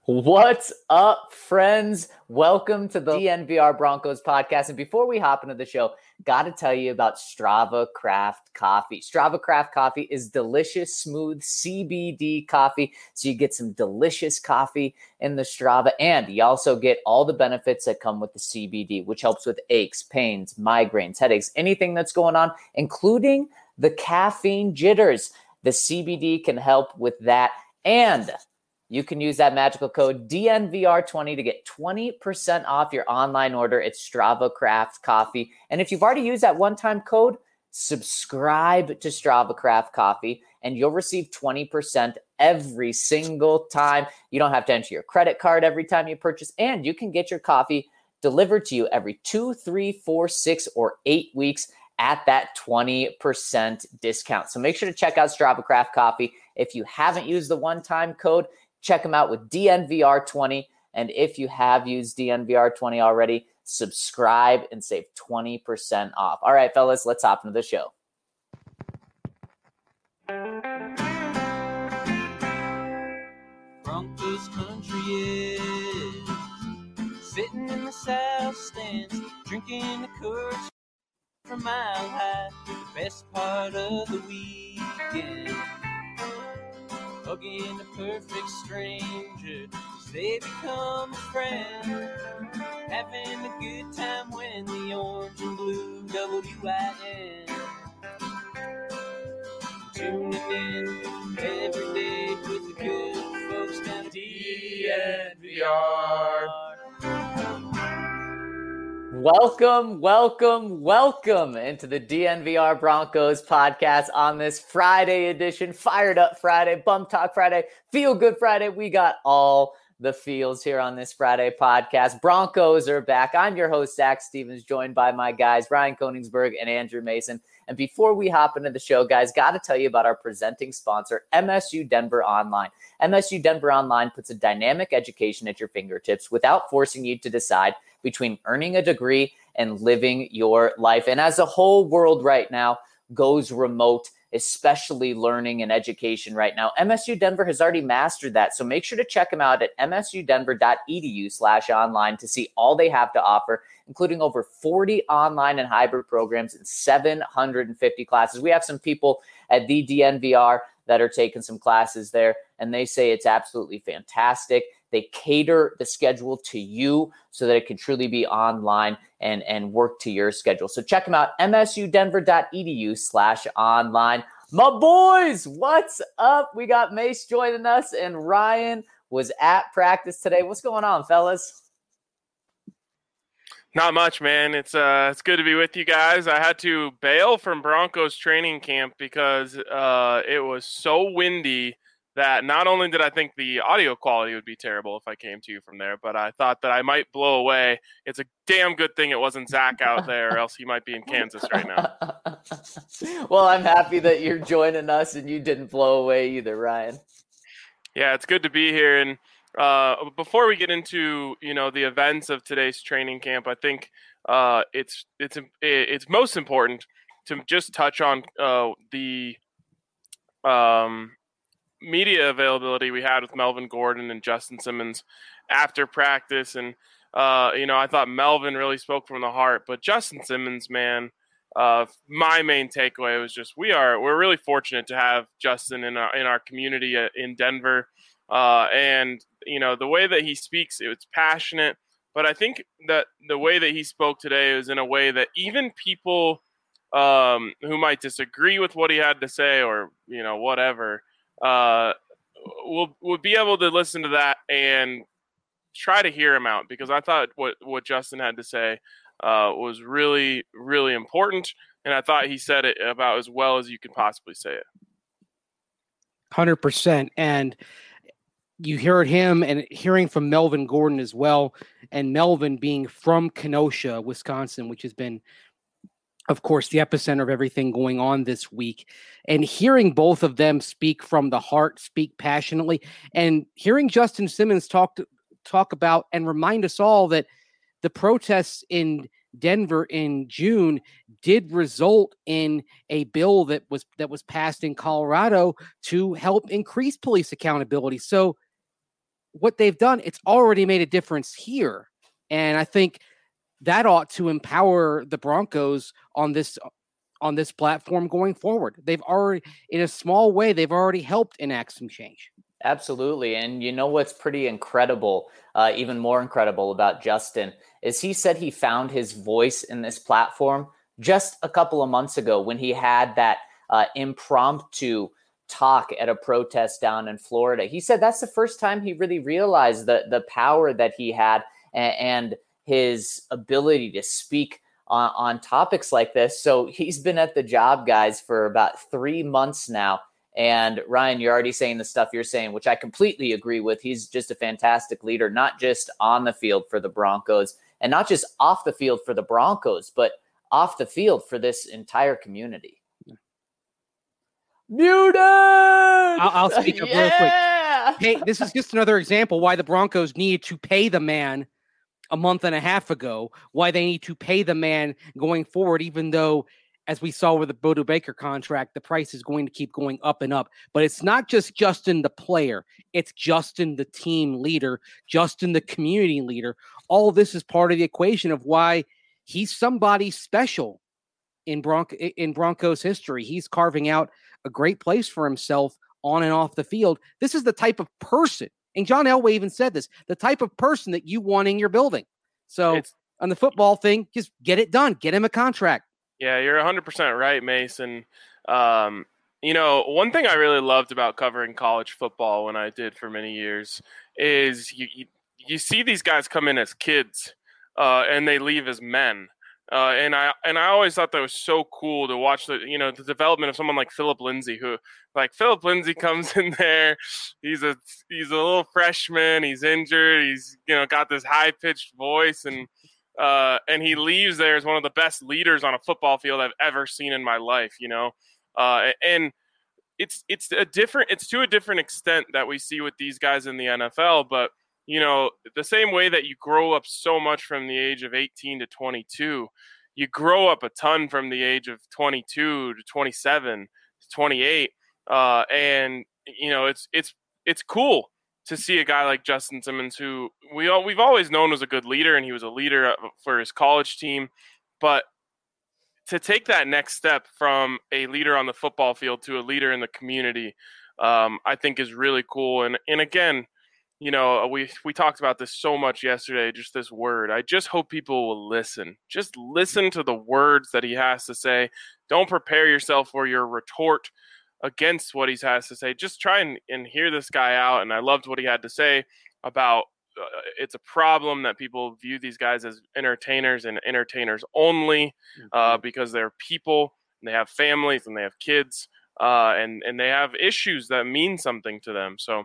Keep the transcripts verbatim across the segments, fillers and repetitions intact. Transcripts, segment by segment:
What's up, friends? Welcome to the D N V R Broncos podcast. And before we hop into the show, got to tell you about Strava Craft Coffee. Strava Craft Coffee is delicious, smooth C B D coffee. So you get some delicious coffee in the Strava, and you also get all the benefits that come with the C B D, which helps with aches, pains, migraines, headaches, anything that's going on, including the caffeine jitters. The C B D can help with that. And you can use that magical code D N V R twenty to get twenty percent off your online order at Strava Craft Coffee. And if you've already used that one-time code, subscribe to Strava Craft Coffee, and you'll receive twenty percent every single time. You don't have to enter your credit card every time you purchase, and you can get your coffee delivered to you every two, three, four, six, or eight weeks at that twenty percent discount. So make sure to check out Strava Craft Coffee. If you haven't used the one-time code, check them out with D N V R twenty. And if you have used D N V R twenty already, subscribe and save twenty percent off. All right, fellas, let's hop into the show. Broncos country is sitting in the south stands, drinking the Coors from Mile High, the best part of the weekend. Hugging a perfect stranger, they become a friend. Having a good time when the orange and blue W I N. Tuning in every day with the good folks down at D N V R. Welcome, welcome, welcome into the D N V R Broncos podcast on this Friday edition, Fired Up Friday, Bump Talk Friday, Feel Good Friday. We got all the feels here on this Friday podcast. Broncos are back. I'm your host, Zach Stevens, joined by my guys, Ryan Koenigsberg and Andrew Mason. And before we hop into the show, guys, got to tell you about our presenting sponsor, M S U Denver Online. M S U Denver Online puts a dynamic education at your fingertips without forcing you to decide between earning a degree and living your life. And as the whole world right now goes remote, especially learning and education right now, M S U Denver has already mastered that. So make sure to check them out at msudenver.edu slash online to see all they have to offer, including over forty online and hybrid programs and seven hundred fifty classes. We have some people at the D N V R that are taking some classes there, and they say it's absolutely fantastic. They cater the schedule to you so that it can truly be online and, and work to your schedule. So check them out, msudenver.edu slash online. My boys, what's up? We got Mace joining us, and Ryan was at practice today. What's going on, fellas? Not much, man. It's uh, it's good to be with you guys. I had to bail from Broncos training camp because uh, it was so windy that not only did I think the audio quality would be terrible if I came to you from there, but I thought that I might blow away. It's a damn good thing it wasn't Zach out there, or else he might be in Kansas right now. Well, I'm happy that you're joining us and you didn't blow away either, Ryan. Yeah, it's good to be here. And uh, before we get into, you know, the events of today's training camp, I think uh, it's it's it's most important to just touch on uh, the um. media availability we had with Melvin Gordon and Justin Simmons after practice. And, uh, you know, I thought Melvin really spoke from the heart, but Justin Simmons, man, uh, my main takeaway was just, we are, we're really fortunate to have Justin in our, in our community in Denver. Uh, and, you know, the way that he speaks, it's passionate, but I think that the way that he spoke today was in a way that even people um, who might disagree with what he had to say or, you know, whatever, uh, we'll, we'll be able to listen to that and try to hear him out, because I thought what, what Justin had to say uh, was really, really important. And I thought he said it about as well as you could possibly say it. one hundred percent. And you heard him and hearing from Melvin Gordon as well. And Melvin being from Kenosha, Wisconsin, which has been, of course, the epicenter of everything going on this week, and hearing both of them speak from the heart, speak passionately, and hearing Justin Simmons talk to, talk about and remind us all that the protests in Denver in June did result in a bill that was that was passed in Colorado to help increase police accountability. So what they've done, it's already made a difference here. And I think that ought to empower the Broncos on this on this platform going forward. They've already, in a small way, they've already helped enact some change. Absolutely. And you know what's pretty incredible, uh, even more incredible about Justin, is he said he found his voice in this platform just a couple of months ago when he had that uh, impromptu talk at a protest down in Florida. He said that's the first time he really realized the, the power that he had and, and his ability to speak on, on topics like this. So he's been at the job, guys, for about three months now. And Ryan, you're already saying the stuff you're saying, which I completely agree with. He's just a fantastic leader, not just on the field for the Broncos and not just off the field for the Broncos, but off the field for this entire community. Muted! I'll, I'll speak up yeah! real quick. Hey, this is just another example why the Broncos needed to pay the man a month and a half ago, why they need to pay the man going forward, even though, as we saw with the Bodo Baker contract, the price is going to keep going up and up. But it's not just Justin the player. It's Justin the team leader, Justin the community leader. All of this is part of the equation of why he's somebody special in, Bronco, in Broncos history. He's carving out a great place for himself on and off the field. This is the type of person, and John Elway even said this, the type of person that you want in your building. So it's, on the football thing, just get it done. Get him a contract. Yeah, you're one hundred percent right, Mason. Um, you know, one thing I really loved about covering college football when I did for many years is you you, you see these guys come in as kids uh, and they leave as men. Uh, and I and I always thought that was so cool to watch the you know the development of someone like Philip Lindsay, who like Philip Lindsay comes in there, he's a he's a little freshman, he's injured, he's you know got this high pitched voice, and uh, and he leaves there as one of the best leaders on a football field I've ever seen in my life. You know, uh, and it's it's a different it's to a different extent that we see with these guys in the N F L, but. You know, the same way that you grow up so much from the age of eighteen to twenty-two, you grow up a ton from the age of twenty-two to twenty-seven to twenty-eight. Uh, and, you know, it's it's it's cool to see a guy like Justin Simmons, who we all, we've always known was a good leader, and he was a leader for his college team. But to take that next step from a leader on the football field to a leader in the community, um, I think is really cool. And, and again, you know, we we talked about this so much yesterday, just this word. I just hope people will listen. Just listen to the words that he has to say. Don't prepare yourself for your retort against what he has to say. Just try and, and hear this guy out. And I loved what he had to say about uh, it's a problem that people view these guys as entertainers and entertainers only uh, mm-hmm. because they're people and they have families and they have kids uh, and, and they have issues that mean something to them. So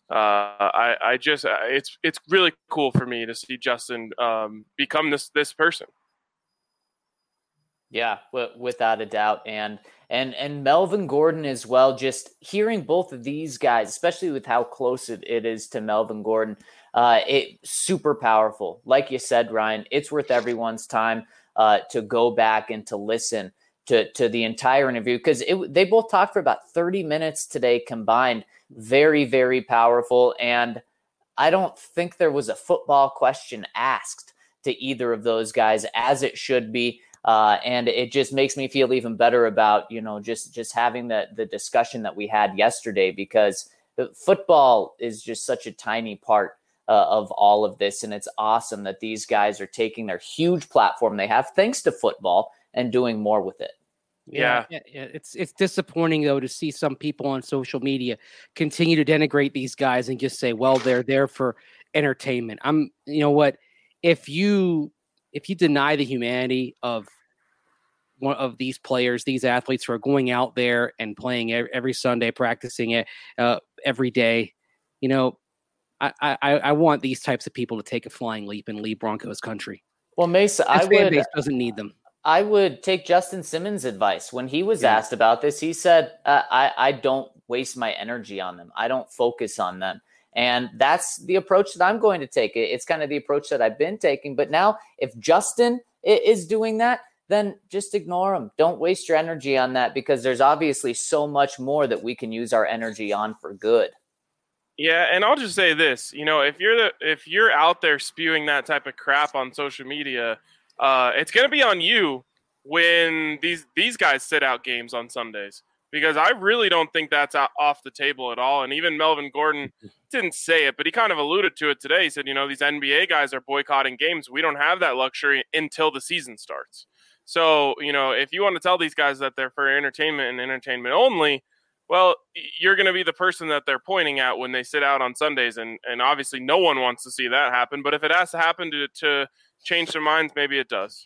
Uh, I, I just uh, it's it's really cool for me to see Justin um, become this this person. Yeah, w- without a doubt, and and and Melvin Gordon as well. Just hearing both of these guys, especially with how close it, it is to Melvin Gordon, uh, it super powerful. Like you said, Ryan, it's worth everyone's time uh, to go back and to listen to to the entire interview because they both talked for about thirty minutes today combined. Very, very powerful. And I don't think there was a football question asked to either of those guys, as it should be. Uh, and it just makes me feel even better about, you know, just, just having the, the discussion that we had yesterday, because the football is just such a tiny part uh, of all of this. And it's awesome that these guys are taking their huge platform they have thanks to football and doing more with it. Yeah. yeah, yeah. It's it's disappointing though to see some people on social media continue to denigrate these guys and just say, "Well, they're there for entertainment." I'm, you know what? If you if you deny the humanity of one of these players, these athletes who are going out there and playing every Sunday, practicing it uh, every day, you know, I, I I want these types of people to take a flying leap and leave Broncos country. Well, Mesa, this I fan would base doesn't need them. I would take Justin Simmons' advice. When he was yeah. asked about this, he said, uh, I, I don't waste my energy on them. I don't focus on them. And that's the approach that I'm going to take. It's kind of the approach that I've been taking. But now if Justin is doing that, then just ignore him. Don't waste your energy on that, because there's obviously so much more that we can use our energy on for good. Yeah, and I'll just say this, you know, if you're the if you're out there spewing that type of crap on social media, uh, it's going to be on you when these these guys sit out games on Sundays, because I really don't think that's out, off the table at all. And even Melvin Gordon didn't say it, but he kind of alluded to it today. He said, you know, these N B A guys are boycotting games. We don't have that luxury until the season starts. So, you know, if you want to tell these guys that they're for entertainment and entertainment only, well, you're going to be the person that they're pointing at when they sit out on Sundays. And, and obviously no one wants to see that happen. But if it has to happen to, to change their minds, maybe it does.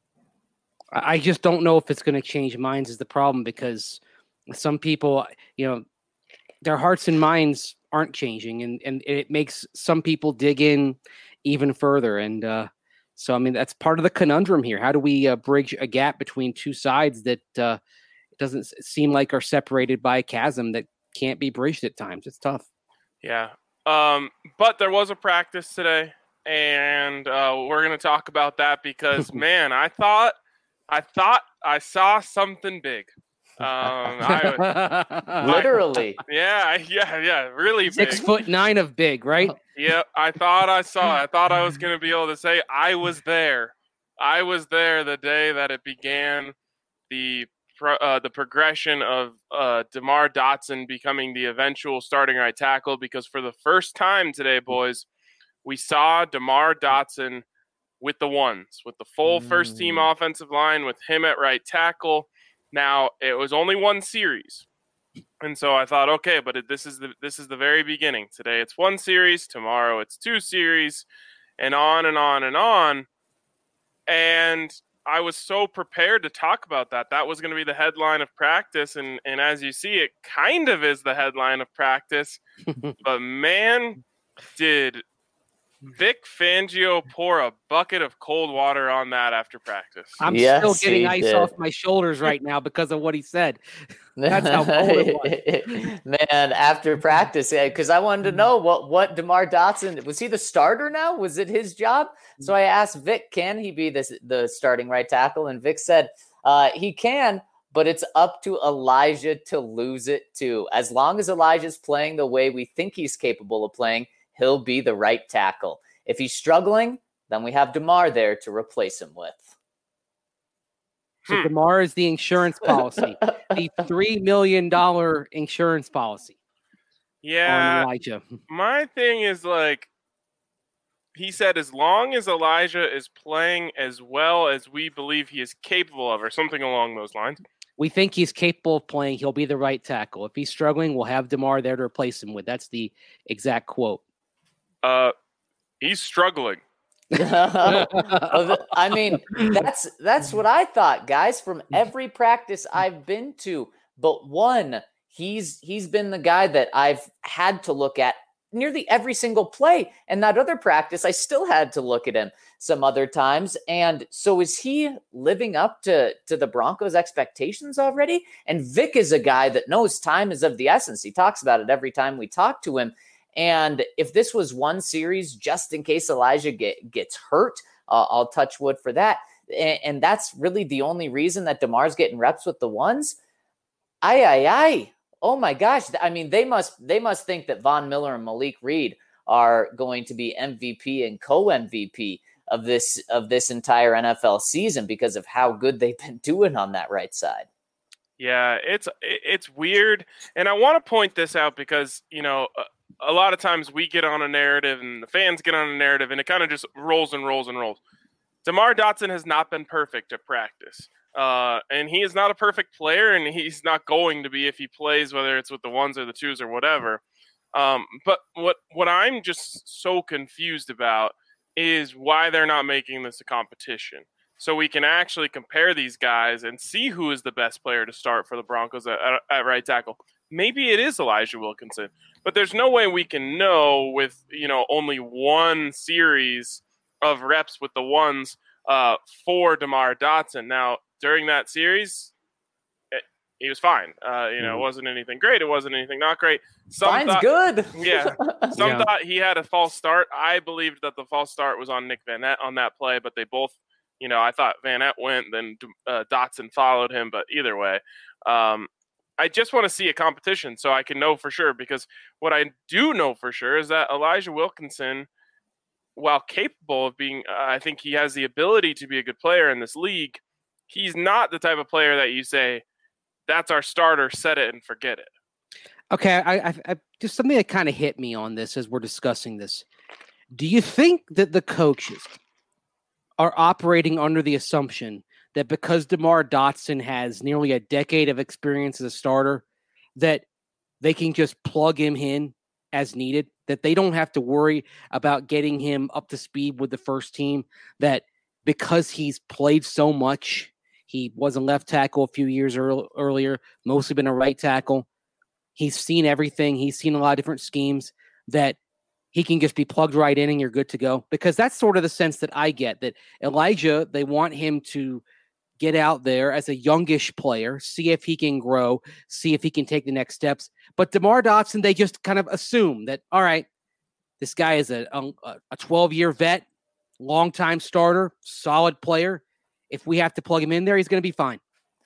I just don't know if it's going to change minds is the problem, because some people, you know, their hearts and minds aren't changing, and, and it makes some people dig in even further. And uh, so, I mean, that's part of the conundrum here. How do we uh, bridge a gap between two sides that uh, doesn't seem like are separated by a chasm that can't be bridged at times? It's tough. Yeah. Um, but there was a practice today, and uh, we're going to talk about that because, man, I thought, I thought I saw something big. Um, I, Literally. I, yeah, yeah, yeah, really big. Six foot nine of big, right? Yeah, I thought I saw it. I thought I was going to be able to say I was there. I was there the day that it began, the pro, uh, the progression of uh, DeMar Dotson becoming the eventual starting right tackle, because for the first time today, boys, we saw DeMar Dotson with the ones, with the full mm. first team offensive line, with him at right tackle. Now, it was only one series, and so I thought, okay, but it, this is the this is the very beginning. Today it's one series, tomorrow it's two series, and on and on and on. And I was so prepared to talk about that. That was going to be the headline of practice, and, and as you see, it kind of is the headline of practice. But, man, did Vic Fangio pour a bucket of cold water on that after practice. I'm yes, still getting ice did. off my shoulders right now because of what he said. That's how cold it was. Man, after practice, because I wanted to know what, what DeMar Dotson, was he the starter now? Was it his job? So I asked Vic, can he be this, the starting right tackle? And Vic said uh, he can, but it's up to Elijah to lose it too. As long as Elijah's playing the way we think he's capable of playing, he'll be the right tackle. If he's struggling, then we have DeMar there to replace him with. So DeMar is the insurance policy, the three million dollars insurance policy. Yeah. On Elijah. My thing is, like, he said, as long as Elijah is playing as well as we believe he is capable of, or something along those lines. We think he's capable of playing. He'll be the right tackle. If he's struggling, we'll have DeMar there to replace him with. That's the exact quote. Uh, he's struggling. I mean, that's that's what I thought, guys, from every practice I've been to. But one, he's he's been the guy that I've had to look at nearly every single play. And that other practice, I still had to look at him some other times. And so is he living up to, to the Broncos' expectations already? And Vic is a guy that knows time is of the essence. He talks about it every time we talk to him. And if this was one series, just in case Elijah get, gets hurt, uh, I'll touch wood for that. And, and that's really the only reason that DeMar's getting reps with the ones. Aye, aye, aye. Oh my gosh. I mean, they must they must think that Von Miller and Malik Reed are going to be M V P and co-M V P of this of this entire N F L season because of how good they've been doing on that right side. Yeah, it's it's weird. And I want to point this out because, you know, a, a lot of times we get on a narrative and the fans get on a narrative and it kind of just rolls and rolls and rolls. DeMar Dotson has not been perfect at practice. Uh, and he is not a perfect player, and he's not going to be if he plays, whether it's with the ones or the twos or whatever. Um, but what what I'm just so confused about is why they're not making this a competition. So we can actually compare these guys and see who is the best player to start for the Broncos at, at, at right tackle. Maybe it is Elijah Wilkinson, but there's no way we can know with, you know, only one series of reps with the ones uh, for DeMar Dotson. Now, during that series, it, he was fine. Uh, you know, it wasn't anything great. It wasn't anything not great. Some Fine's thought, good. Yeah. Some yeah. thought he had a false start. I believed that the false start was on Nick Van Nett on that play, but they both, you know, I thought Van Nett went, then uh, Dotson followed him. But either way, um, I just want to see a competition so I can know for sure, because what I do know for sure is that Elijah Wilkinson, while capable of being, uh, I think he has the ability to be a good player in this league, he's not the type of player that you say, that's our starter, set it and forget it. Okay, I, I, I just something that kind of hit me on this as we're discussing this. Do you think that the coaches are operating under the assumption that because DeMar Dotson has nearly a decade of experience as a starter, that they can just plug him in as needed, that they don't have to worry about getting him up to speed with the first team, that because he's played so much, he was a left tackle a few years earl- earlier, mostly been a right tackle. He's seen everything. He's seen a lot of different schemes, that he can just be plugged right in and you're good to go. Because that's sort of the sense that I get, that Elijah, they want him to get out there as a youngish player, see if he can grow, see if he can take the next steps. But DeMar Dotson, they just kind of assume that, all right, this guy is a a twelve-year vet, long-time starter, solid player. If we have to plug him in there, he's going to be fine.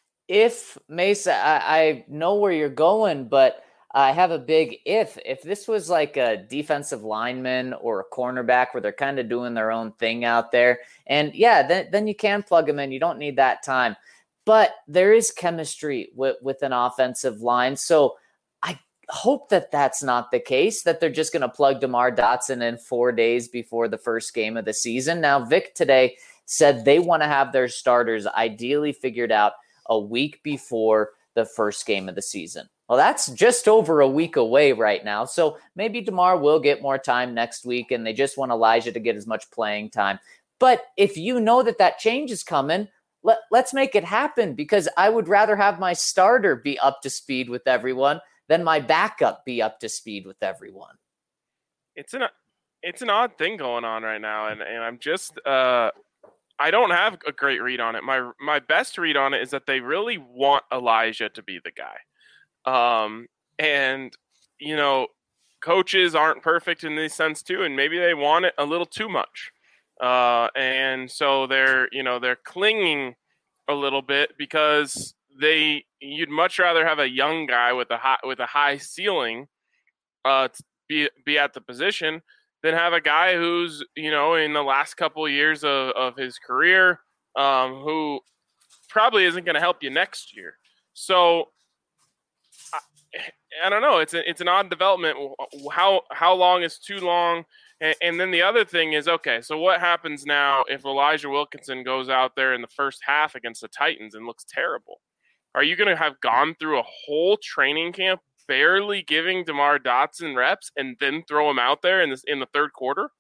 If Mesa, I, I know where you're going, but I have a big if. If this was like a defensive lineman or a cornerback where they're kind of doing their own thing out there, and yeah, then, then you can plug them in. You don't need that time. But there is chemistry with, with an offensive line. So I hope that that's not the case, that they're just going to plug DeMar Dotson in four days before the first game of the season. Now, Vic today said they want to have their starters ideally figured out a week before the first game of the season. Well, that's just over a week away right now. So maybe DeMar will get more time next week, and they just want Elijah to get as much playing time. But if you know that that change is coming, let, let's make it happen, because I would rather have my starter be up to speed with everyone than my backup be up to speed with everyone. It's an it's an odd thing going on right now, and, and I'm just uh, I don't have a great read on it. My my best read on it is that they really want Elijah to be the guy. Um, and, you know, coaches aren't perfect in this sense too, and maybe they want it a little too much. Uh, and so they're, you know, they're clinging a little bit because they, you'd much rather have a young guy with a high, with a high ceiling, uh, to be, be at the position than have a guy who's, you know, in the last couple of years of, of his career, um, who probably isn't going to help you next year. So, I don't know. It's a, it's an odd development. How how long is too long? And, and then the other thing is, okay, so what happens now if Elijah Wilkinson goes out there in the first half against the Titans and looks terrible? Are you going to have gone through a whole training camp barely giving DeMar Dotson reps and then throw him out there in this in the third quarter?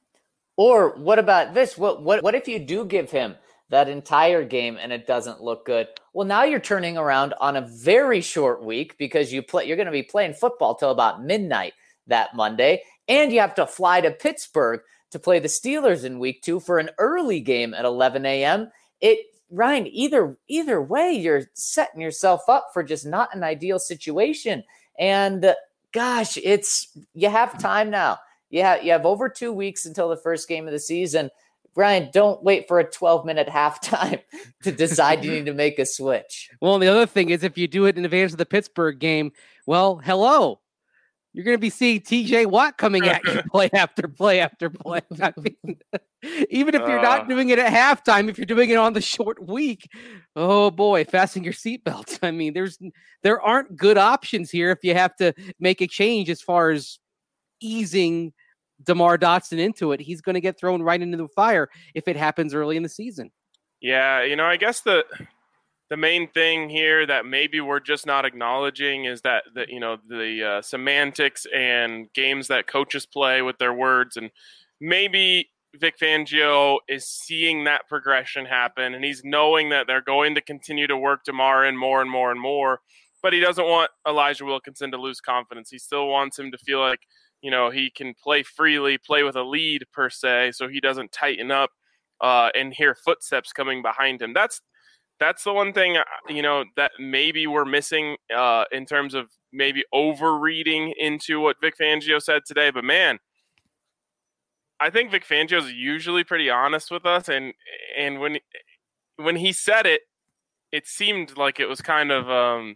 Or what about this? What what what if you do give him that entire game and it doesn't look good? Well, now you're turning around on a very short week, because you play, you're going to be playing football till about midnight that Monday, and you have to fly to Pittsburgh to play the Steelers in week two for an early game at eleven a.m. It, Ryan, either either way, you're setting yourself up for just not an ideal situation. And uh, gosh, it's you have time now. You have, you have over two weeks until the first game of the season. Brian, don't wait for a twelve-minute halftime to decide you need to make a switch. Well, and the other thing is, if you do it in advance of the Pittsburgh game, well, hello. You're going to be seeing T J Watt coming at you play after play after play. I mean, even if you're not doing it at halftime, if you're doing it on the short week, oh boy, fasten your seatbelts. I mean, there's there aren't good options here if you have to make a change as far as easing DeMar Dotson into it. He's going to get thrown right into the fire if it happens early in the season. Yeah, you know, I guess the the main thing here that maybe we're just not acknowledging is that, that you know, the uh, semantics and games that coaches play with their words. And maybe Vic Fangio is seeing that progression happen, and he's knowing that they're going to continue to work DeMar in more and more and more, but he doesn't want Elijah Wilkinson to lose confidence. He still wants him to feel like, you know, he can play freely, play with a lead per se, so he doesn't tighten up uh, and hear footsteps coming behind him. That's that's the one thing, you know, that maybe we're missing uh, in terms of maybe overreading into what Vic Fangio said today. But man, I think Vic Fangio is usually pretty honest with us, and and when when he said it, it seemed like it was kind of um,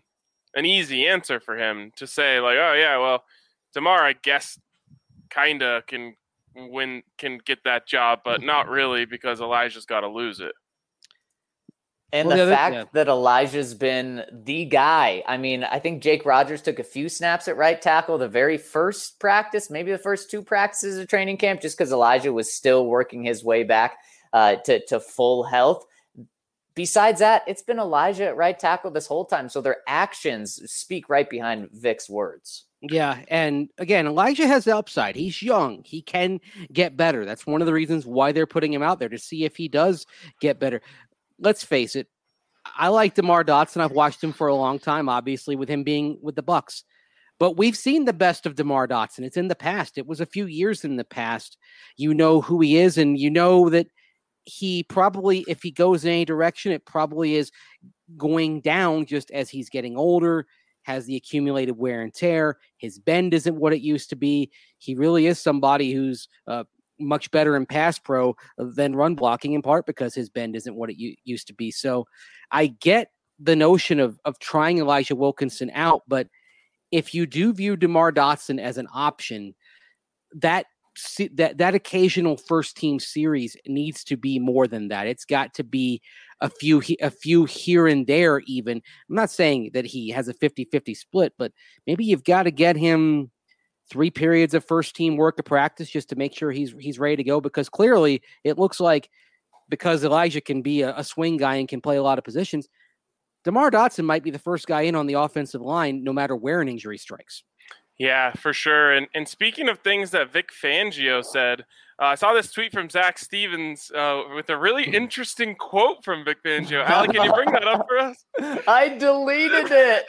an easy answer for him to say like, oh yeah, well, DeMar, I guess, kinda can win, can get that job, but not really because Elijah's got to lose it. And well, the, the fact yeah. that Elijah's been the guy. I mean, I think Jake Rogers took a few snaps at right tackle the very first practice, maybe the first two practices of training camp, just because Elijah was still working his way back uh, to, to full health. Besides that, it's been Elijah at right tackle this whole time. So their actions speak right behind Vic's words. Yeah. And again, Elijah has the upside. He's young. He can get better. That's one of the reasons why they're putting him out there, to see if he does get better. Let's face it. I like DeMar Dotson. I've watched him for a long time, obviously, with him being with the Bucs. But we've seen the best of DeMar Dotson. It's in the past. It was a few years in the past. You know who he is, and you know that he probably, if he goes in any direction, it probably is going down just as he's getting older, has the accumulated wear and tear. His bend isn't what it used to be. He really is somebody who's uh, much better in pass pro than run blocking, in part because his bend isn't what it u- used to be. So I get the notion of of trying Elijah Wilkinson out, but if you do view DeMar Dotson as an option, that that that occasional first team series needs to be more than that. It's got to be a few a few here and there even. I'm not saying that he has a fifty-fifty split, but maybe you've got to get him three periods of first team work of practice just to make sure he's he's ready to go, because clearly it looks like, because Elijah can be a, a swing guy and can play a lot of positions, DeMar Dotson might be the first guy in on the offensive line no matter where an injury strikes. Yeah, for sure. And and speaking of things that Vic Fangio said, uh, I saw this tweet from Zach Stevens uh, with a really interesting quote from Vic Fangio. Alec, can you bring that up for us? I deleted it.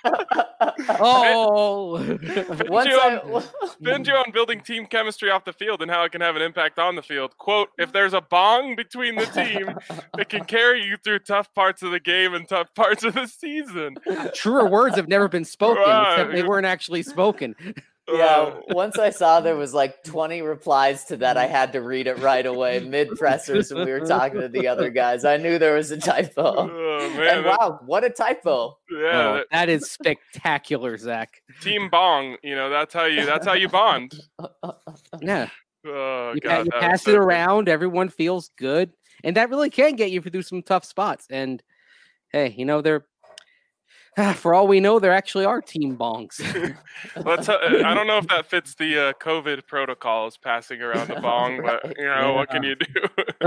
Oh, Fangio, I... on, Fangio on building team chemistry off the field and how it can have an impact on the field. Quote, if there's a bong between the team, it can carry you through tough parts of the game and tough parts of the season. Truer words have never been spoken, Right. except they weren't actually spoken. Yeah, once I saw there was like twenty replies to that, I had to read it right away mid-pressers when we were talking to the other guys. I knew there was a typo. Oh, man, and wow, what a typo. Yeah, Oh, that, that is spectacular, Zach. team bong, you know, that's how you that's how you bond. Yeah. Oh, You, God, you that pass was so it good. around, everyone feels good. And that really can get you through some tough spots. And hey, you know, they're for all we know, there actually are team bongs. Let's, uh, I don't know if that fits the uh, COVID protocols, passing around the bong, but you know, what can you do?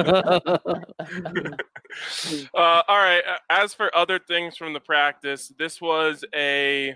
uh, all right. As for other things from the practice, this was a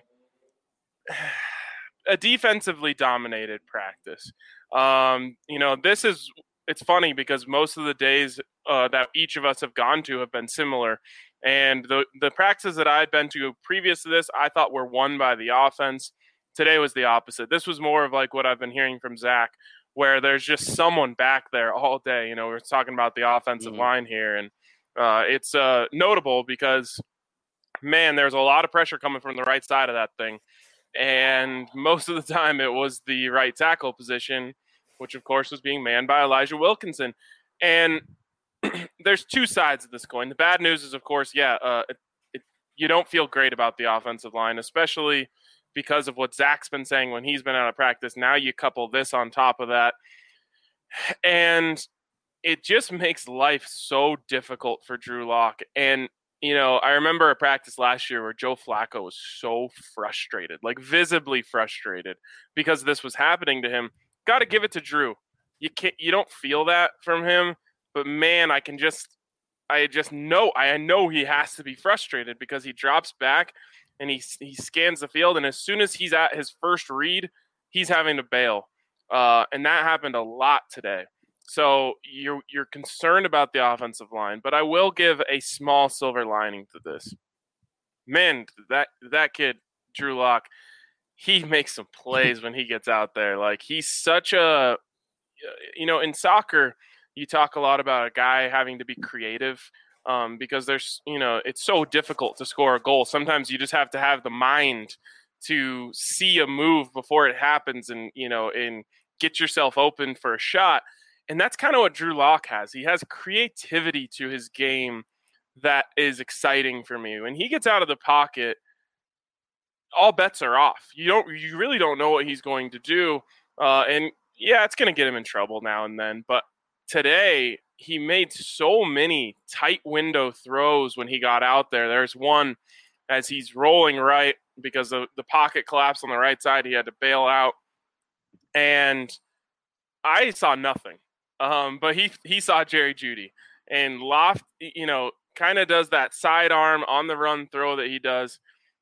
a defensively dominated practice. Um, you know, this is it's funny because most of the days uh, that each of us have gone to have been similar. And the the practices that I had been to previous to this, I thought were won by the offense. Today was the opposite. This was more of like what I've been hearing from Zach, where there's just someone back there all day. You know, we're talking about the offensive Mm-hmm. line here, and uh, it's uh, notable because, man, there's a lot of pressure coming from the right side of that thing. And most of the time it was the right tackle position, which of course was being manned by Elijah Wilkinson. And there's two sides of this coin. The bad news is, of course, yeah, uh, it, it, you don't feel great about the offensive line, especially because of what Zach's been saying when he's been out of practice. Now you couple this on top of that, and it just makes life so difficult for Drew Lock. And, you know, I remember a practice last year where Joe Flacco was so frustrated, like visibly frustrated because this was happening to him. Got to give it to Drew. You can't, you don't feel that from him. But man, I can just, I just know, I know he has to be frustrated because he drops back and he he scans the field, and as soon as he's at his first read, he's having to bail, uh, and that happened a lot today. So you're you're concerned about the offensive line, but I will give a small silver lining to this. Man, that that kid Drew Lock, he makes some plays when he gets out there. Like he's such a, you know, in soccer. You talk a lot about a guy having to be creative um, because there's, you know, it's so difficult to score a goal. Sometimes you just have to have the mind to see a move before it happens and, you know, and get yourself open for a shot. And that's kind of what Drew Lock has. He has creativity to his game that is exciting for me. When he gets out of the pocket, all bets are off. You don't, you really don't know what he's going to do. Uh, and yeah, it's going to get him in trouble now and then. But today he made so many tight window throws when he got out there. There's one as he's rolling right because the, the pocket collapsed on the right side. He had to bail out. And I saw nothing. Um, but he, he saw Jerry Jeudy. And Loft, you know, kind of does that sidearm on the run throw that he does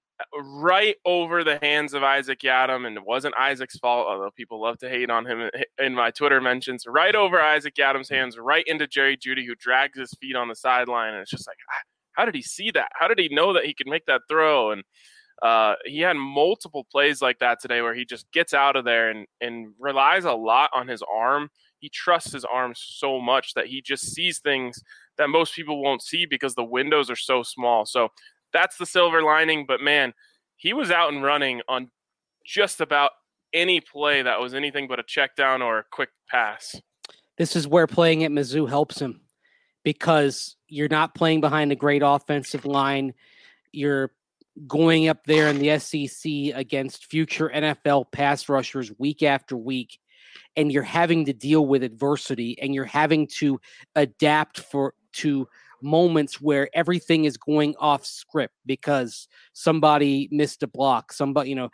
right over the hands of Isaac Yiadom, and it wasn't Isaac's fault, although people love to hate on him in my Twitter mentions, right over Isaac Yiadom's hands, right into Jerry Jeudy, who drags his feet on the sideline, and it's just like, how did he see that? How did he know that he could make that throw? And uh, he had multiple plays like that today where he just gets out of there and, and relies a lot on his arm. He trusts his arm so much that he just sees things that most people won't see because the windows are so small. So that's the silver lining. But, man, he was out and running on just about any play that was anything but a check down or a quick pass. This is where playing at Mizzou helps him because you're not playing behind a great offensive line. You're going up there in the S E C against future N F L pass rushers week after week, and you're having to deal with adversity, and you're having to adapt for to moments where everything is going off script because somebody missed a block, somebody, you know,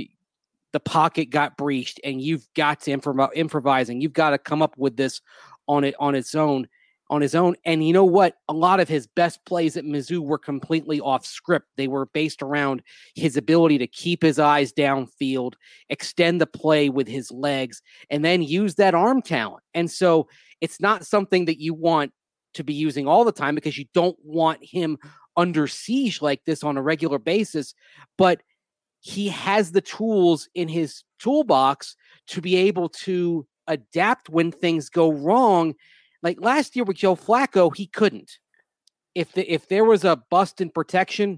the pocket got breached, and you've got to improv- improvising. You've got to come up with this on it on its own, on his own. And you know what? A lot of his best plays at Mizzou were completely off script. They were based around his ability to keep his eyes downfield, extend the play with his legs, and then use that arm talent. And so it's not something that you want to be using all the time because you don't want him under siege like this on a regular basis, but he has the tools in his toolbox to be able to adapt when things go wrong. Like last year with Joe Flacco, he couldn't. If the, if there was a bust in protection,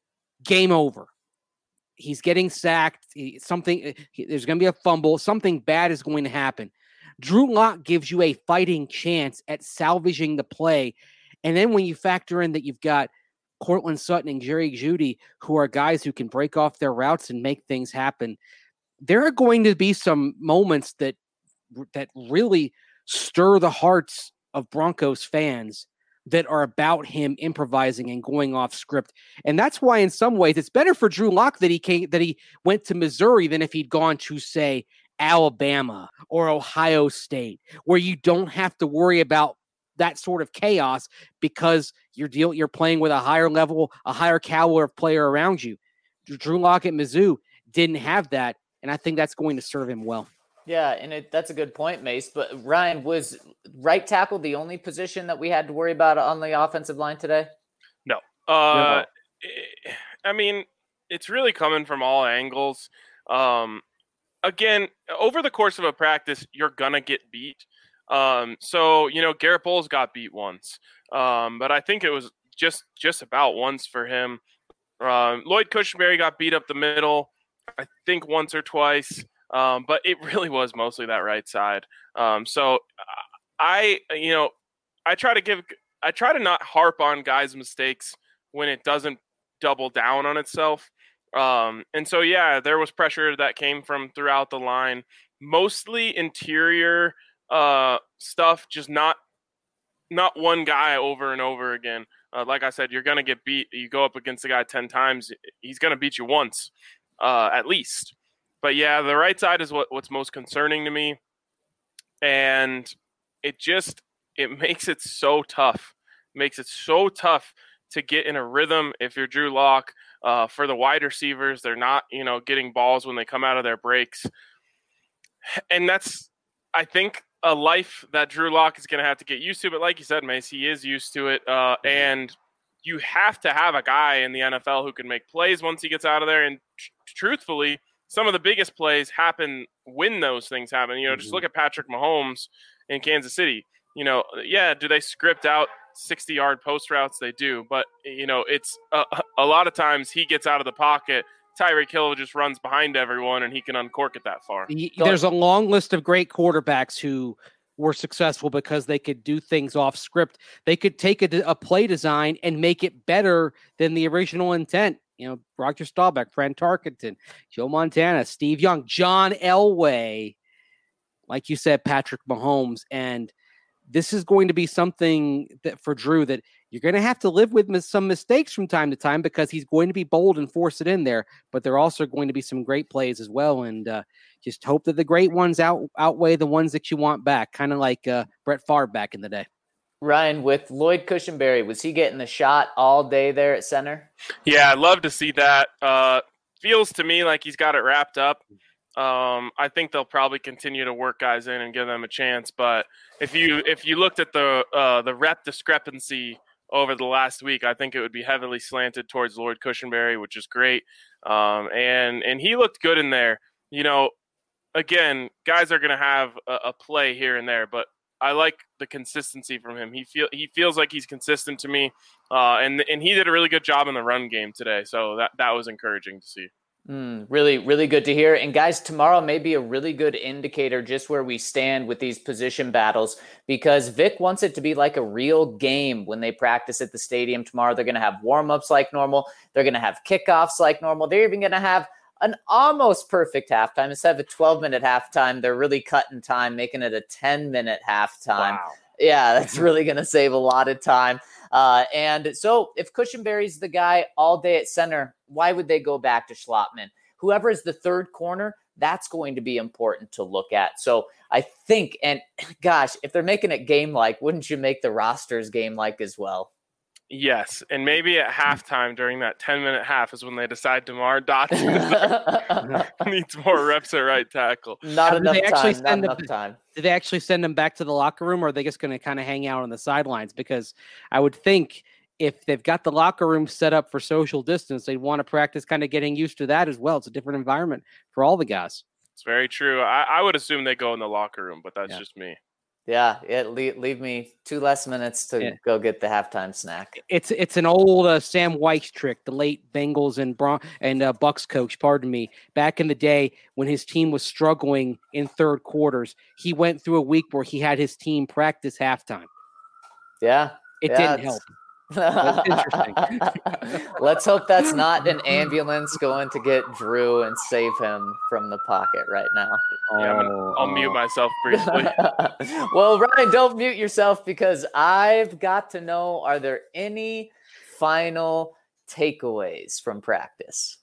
game over. He's getting sacked. He, something he, there's going to be a fumble. Something bad is going to happen. Drew Lock gives you a fighting chance at salvaging the play. And then when you factor in that you've got Cortland Sutton and Jerry Jeudy, who are guys who can break off their routes and make things happen, there are going to be some moments that that really stir the hearts of Broncos fans that are about him improvising and going off script. And that's why in some ways it's better for Drew Lock that he came, that he went to Missouri than if he'd gone to, say, Alabama or Ohio State, where you don't have to worry about that sort of chaos because you're deal you're playing with a higher level, a higher caliber of player around you. Drew Lock at Mizzou didn't have that, and I think that's going to serve him well. Yeah, and it, that's a good point, Mace. But Ryan, was right tackle the only position that we had to worry about on the offensive line today? No. Uh, no. I mean, it's really coming from all angles. Um, again, over the course of a practice, you're going to get beat. Um, so, you know, Garrett Bowles got beat once. Um, but I think it was just, just about once for him. Um, Lloyd Cushenberry got beat up the middle, I think once or twice. Um, but it really was mostly that right side. Um, so I, you know, I try to give, I try to not harp on guys' mistakes when it doesn't double down on itself. Um, and so, yeah, there was pressure that came from throughout the line, mostly interior uh, stuff, just not, not one guy over and over again. Uh, like I said, you're going to get beat. You go up against the guy ten times, he's going to beat you once, uh, at least. But, yeah, the right side is what, what's most concerning to me. And it just it makes it so tough. It makes it so tough to get in a rhythm if you're Drew Lock. Uh, for the wide receivers, they're not, you know, getting balls when they come out of their breaks. And that's, I think, a life that Drew Lock is going to have to get used to. But like you said, Mace, he is used to it. Uh, and you have to have a guy in the N F L who can make plays once he gets out of there. And tr- truthfully, some of the biggest plays happen when those things happen. You know, mm-hmm. Just look at Patrick Mahomes in Kansas City. You know, yeah, do they script out sixty-yard post routes? They do. But, you know, it's uh, a lot of times he gets out of the pocket. Tyreek Hill just runs behind everyone, and he can uncork it that far. There's a long list of great quarterbacks who were successful because they could do things off script. They could take a, a play design and make it better than the original intent. You know, Roger Staubach, Fran Tarkenton, Joe Montana, Steve Young, John Elway, like you said, Patrick Mahomes. And this is going to be something that for Drew that you're going to have to live with some mistakes from time to time because he's going to be bold and force it in there. But there are also going to be some great plays as well. And uh, just hope that the great ones out, outweigh the ones that you want back, kind of like uh, Brett Favre back in the day. Ryan, with Lloyd Cushenberry, was he getting the shot all day there at center? Yeah, I'd love to see that. Uh, feels to me like he's got it wrapped up. Um, I think they'll probably continue to work guys in and give them a chance. But if you if you looked at the uh, the rep discrepancy over the last week, I think it would be heavily slanted towards Lloyd Cushenberry, which is great. Um, and and he looked good in there. You know, again, guys are going to have a, a play here and there, but I like the consistency from him. He feel he feels like he's consistent to me, uh, and and he did a really good job in the run game today. So that that was encouraging to see. Mm, really, really good to hear. And guys, tomorrow may be a really good indicator just where we stand with these position battles, because Vic wants it to be like a real game when they practice at the stadium tomorrow. They're going to have warm-ups like normal. They're going to have kickoffs like normal. They're even going to have an almost perfect halftime. Instead of a twelve-minute halftime, they're really cutting time, making it a ten-minute halftime. Wow. Yeah, that's really going to save a lot of time. Uh, and so if Cushenberry's the guy all day at center, why would they go back to Schlotman? Whoever is the third corner, that's going to be important to look at. So I think, and gosh, if they're making it game-like, wouldn't you make the rosters game-like as well? Yes, and maybe at halftime during that ten-minute half is when they decide DeMar Dotson needs more reps at right tackle. Not enough time, not enough time. Did they actually send them back to the locker room, or are they just going to kind of hang out on the sidelines? Because I would think if they've got the locker room set up for social distance, they'd want to practice kind of getting used to that as well. It's a different environment for all the guys. It's very true. I, I would assume they go in the locker room, but that's yeah. just me. Yeah, it leave, leave me two less minutes to yeah. go get the halftime snack. It's it's an old uh, Sam Weiss trick, the late Bengals and Bron- and uh, Bucks coach, pardon me. Back in the day when his team was struggling in third quarters, he went through a week where he had his team practice halftime. Yeah. It yeah, didn't help. That's interesting. Let's hope that's not an ambulance going to get Drew and save him from the pocket right now. Yeah, I'm gonna, I'll mute myself briefly. Well, Ryan, don't mute yourself, because I've got to know, are there any final takeaways from practice?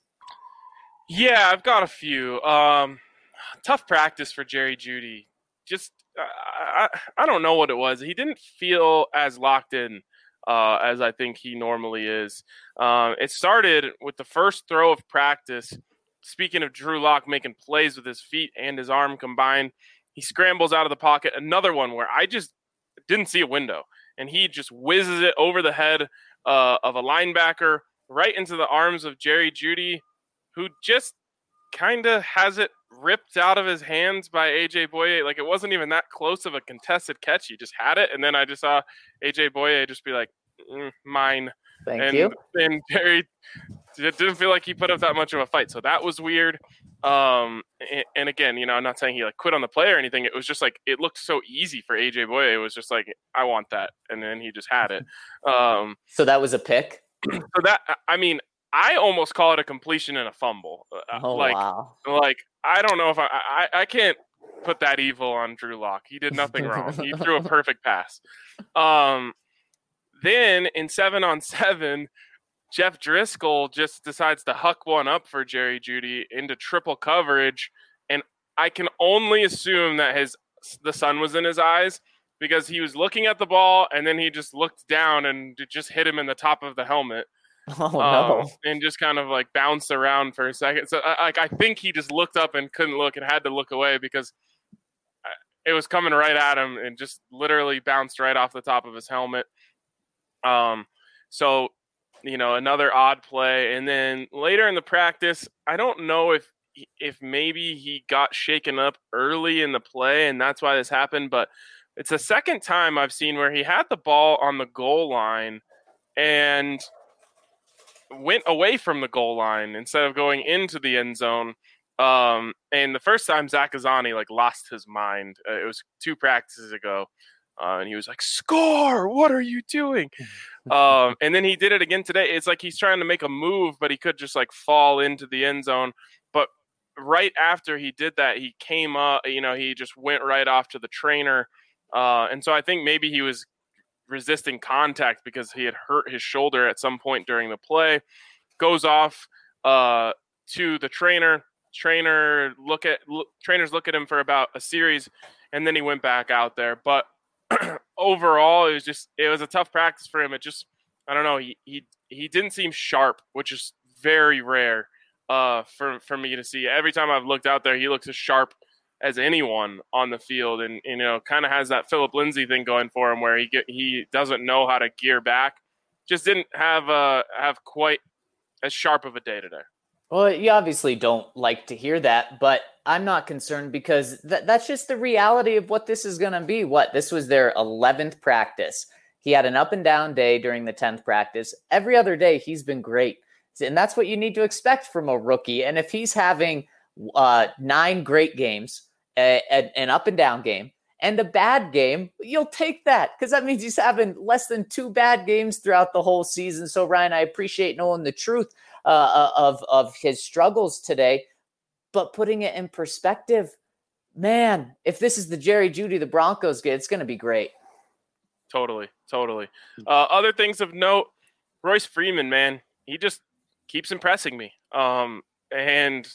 Yeah, I've got a few. Um, tough practice for Jerry Jeudy. Just, I, I, I don't know what it was. He didn't feel as locked in Uh, as I think he normally is. Um, it started with the first throw of practice. Speaking of Drew Lock making plays with his feet and his arm combined, he scrambles out of the pocket. Another one where I just didn't see a window, and he just whizzes it over the head uh, of a linebacker right into the arms of Jerry Jeudy, who just kind of has it ripped out of his hands by A J Boye. Like, it wasn't even that close of a contested catch. He just had it, and then I just saw A J Boye just be like, mm, mine. Thank and, you. And Jerry, it didn't feel like he put up that much of a fight, so that was weird. Um, and, and again, you know, I'm not saying he like quit on the play or anything. It was just like, it looked so easy for A J Boye. It was just like, I want that, and then he just had it. Um, so that was a pick? So that, I mean, I almost call it a completion and a fumble. Oh, like, wow. Like, I don't know if I, I, I can't put that evil on Drew Lock. He did nothing wrong. He threw a perfect pass. Um, then in seven on seven, Jeff Driscoll just decides to huck one up for Jerry Jeudy into triple coverage. And I can only assume that his, the sun was in his eyes, because he was looking at the ball and then he just looked down and it just hit him in the top of the helmet. Oh, no. Um, and just kind of like bounced around for a second. So I, like, I think he just looked up and couldn't look and had to look away because it was coming right at him and just literally bounced right off the top of his helmet. Um, so, you know, another odd play. And then later in the practice, I don't know if, if maybe he got shaken up early in the play and that's why this happened, but it's the second time I've seen where he had the ball on the goal line and went away from the goal line instead of going into the end zone. Um, and the first time Zach Azzanni like lost his mind. Uh, it was two practices ago. Uh, and he was like, "Score! What are you doing?" um, and then he did it again today. It's like he's trying to make a move, but he could just like fall into the end zone. But right after he did that, he came up, you know, he just went right off to the trainer. Uh, and so I think maybe he was resisting contact because he had hurt his shoulder at some point during the play. Goes off uh, to the trainer. Trainer look at look, trainers look at him for about a series, and then he went back out there. But overall, it was just it was a tough practice for him. It just I don't know. He he he didn't seem sharp, which is very rare uh, for for me to see. Every time I've looked out there, he looks as sharp as anyone on the field, and you know, kind of has that Philip Lindsay thing going for him, where he get, he doesn't know how to gear back. Just didn't have uh have quite as sharp of a day today. Well, you obviously don't like to hear that, but I'm not concerned because th- that's just the reality of what this is going to be. What, this was their eleventh practice. He had an up and down day during the tenth practice. Every other day, he's been great. And that's what you need to expect from a rookie. And if he's having uh, nine great games, a, a, an up and down game, and a bad game, you'll take that because that means he's having less than two bad games throughout the whole season. So, Ryan, I appreciate knowing the truth uh, of, of his struggles today, but putting it in perspective, man, if this is the Jerry Jeudy the Broncos get, it's going to be great. Totally, totally. Uh, other things of note, Royce Freeman, man, he just keeps impressing me. Um, and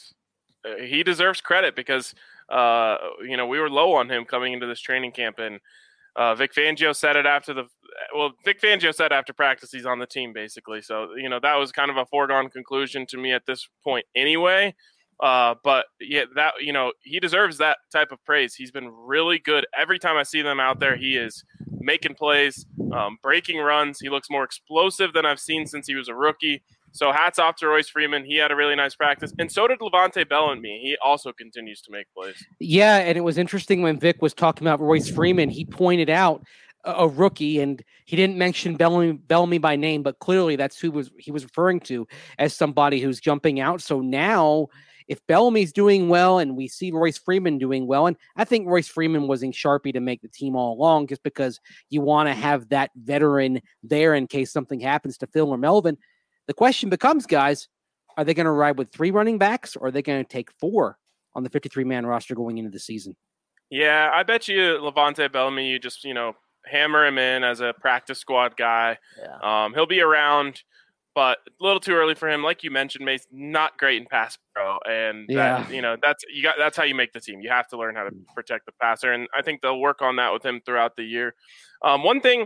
he deserves credit because – Uh, you know, we were low on him coming into this training camp, and uh, Vic Fangio said it after the well, Vic Fangio said after practice he's on the team basically. So you know that was kind of a foregone conclusion to me at this point anyway. Uh, but yeah, that you know he deserves that type of praise. He's been really good every time I see them out there. He is making plays, um, breaking runs. He looks more explosive than I've seen since he was a rookie. So hats off to Royce Freeman. He had a really nice practice. And so did Levante Bellamy. He also continues to make plays. Yeah, and it was interesting when Vic was talking about Royce Freeman. He pointed out a, a rookie, and he didn't mention Bellamy, Bellamy by name, but clearly that's who was he was referring to as somebody who's jumping out. So now if Bellamy's doing well and we see Royce Freeman doing well, and I think Royce Freeman was in Sharpie to make the team all along just because you want to have that veteran there in case something happens to Phil or Melvin. The question becomes, guys, are they going to ride with three running backs or are they going to take four on the fifty-three man roster going into the season? Yeah, I bet you Levante Bellamy, you just, you know, hammer him in as a practice squad guy. Yeah. Um, he'll be around, but a little too early for him. Like you mentioned, Mace, not great in pass pro. And, yeah. that, you know, that's you got. That's how you make the team. You have to learn how to protect the passer. And I think they'll work on that with him throughout the year. Um, one thing,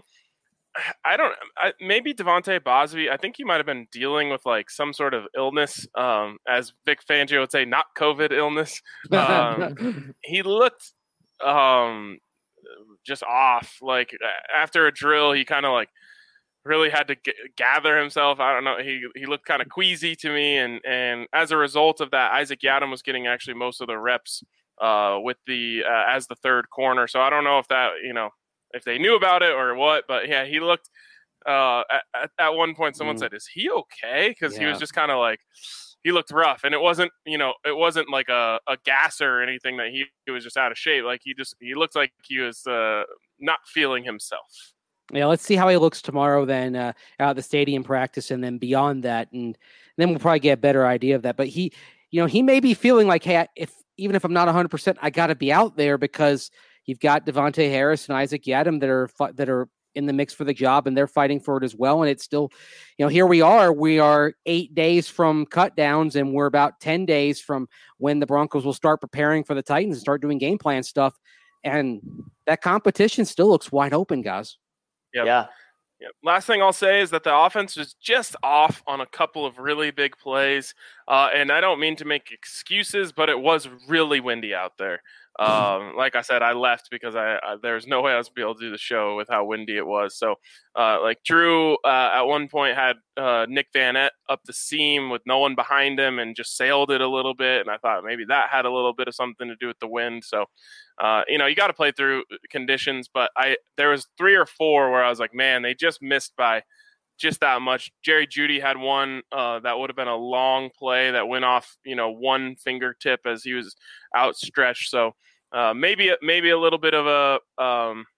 I don't I, maybe Devontae Bosby, I think he might have been dealing with like some sort of illness, um, as Vic Fangio would say, not COVID illness. Um, he looked um, just off. Like after a drill, he kind of like really had to g- gather himself. I don't know. He he looked kind of queasy to me. And, and as a result of that, Isaac Yiadom was getting actually most of the reps uh, with the uh, as the third corner. So I don't know if that, you know, if they knew about it or what, but yeah, he looked uh, at, at one point someone mm. said, is he okay? Because yeah. he was just kind of like, he looked rough, and it wasn't, you know, it wasn't like a, a gasser or anything that he, he was just out of shape. Like he just, he looked like he was uh, not feeling himself. Yeah. Let's see how he looks tomorrow then uh, out of the stadium practice. And then beyond that, and then we'll probably get a better idea of that. But he, you know, he may be feeling like, hey, if, even if I'm not one hundred percent, I got to be out there because you've got Devontae Harris and Isaac Yiadom that are that are in the mix for the job, and they're fighting for it as well. And it's still, you know, here we are. We are eight days from cut downs, and we're about ten days from when the Broncos will start preparing for the Titans and start doing game plan stuff. And that competition still looks wide open, guys. Yep. Yeah. Yep. Last thing I'll say is that the offense was just off on a couple of really big plays. Uh, and I don't mean to make excuses, but it was really windy out there. Um, like I said, I left because I, I there was no way I was going to be able to do the show with how windy it was. So, uh, like Drew uh, at one point had uh, Nick Van Ette up the seam with no one behind him and just sailed it a little bit. And I thought maybe that had a little bit of something to do with the wind. So, uh, you know, you got to play through conditions. But I there was three or four where I was like, man, they just missed by just that much. Jerry Jeudy had one uh, that would have been a long play that went off, you know, one fingertip as he was outstretched. So uh, maybe maybe a little bit of a um,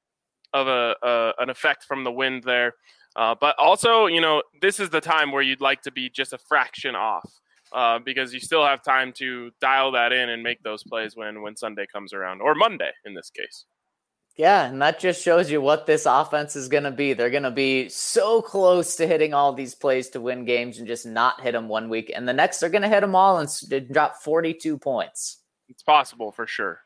of a, a an effect from the wind there. Uh, but also, you know, this is the time where you'd like to be just a fraction off uh, because you still have time to dial that in and make those plays when when Sunday comes around, or Monday in this case. Yeah, and that just shows you what this offense is going to be. They're going to be so close to hitting all these plays to win games and just not hit them one week. And the next, they're going to hit them all and drop forty-two points. It's possible for sure.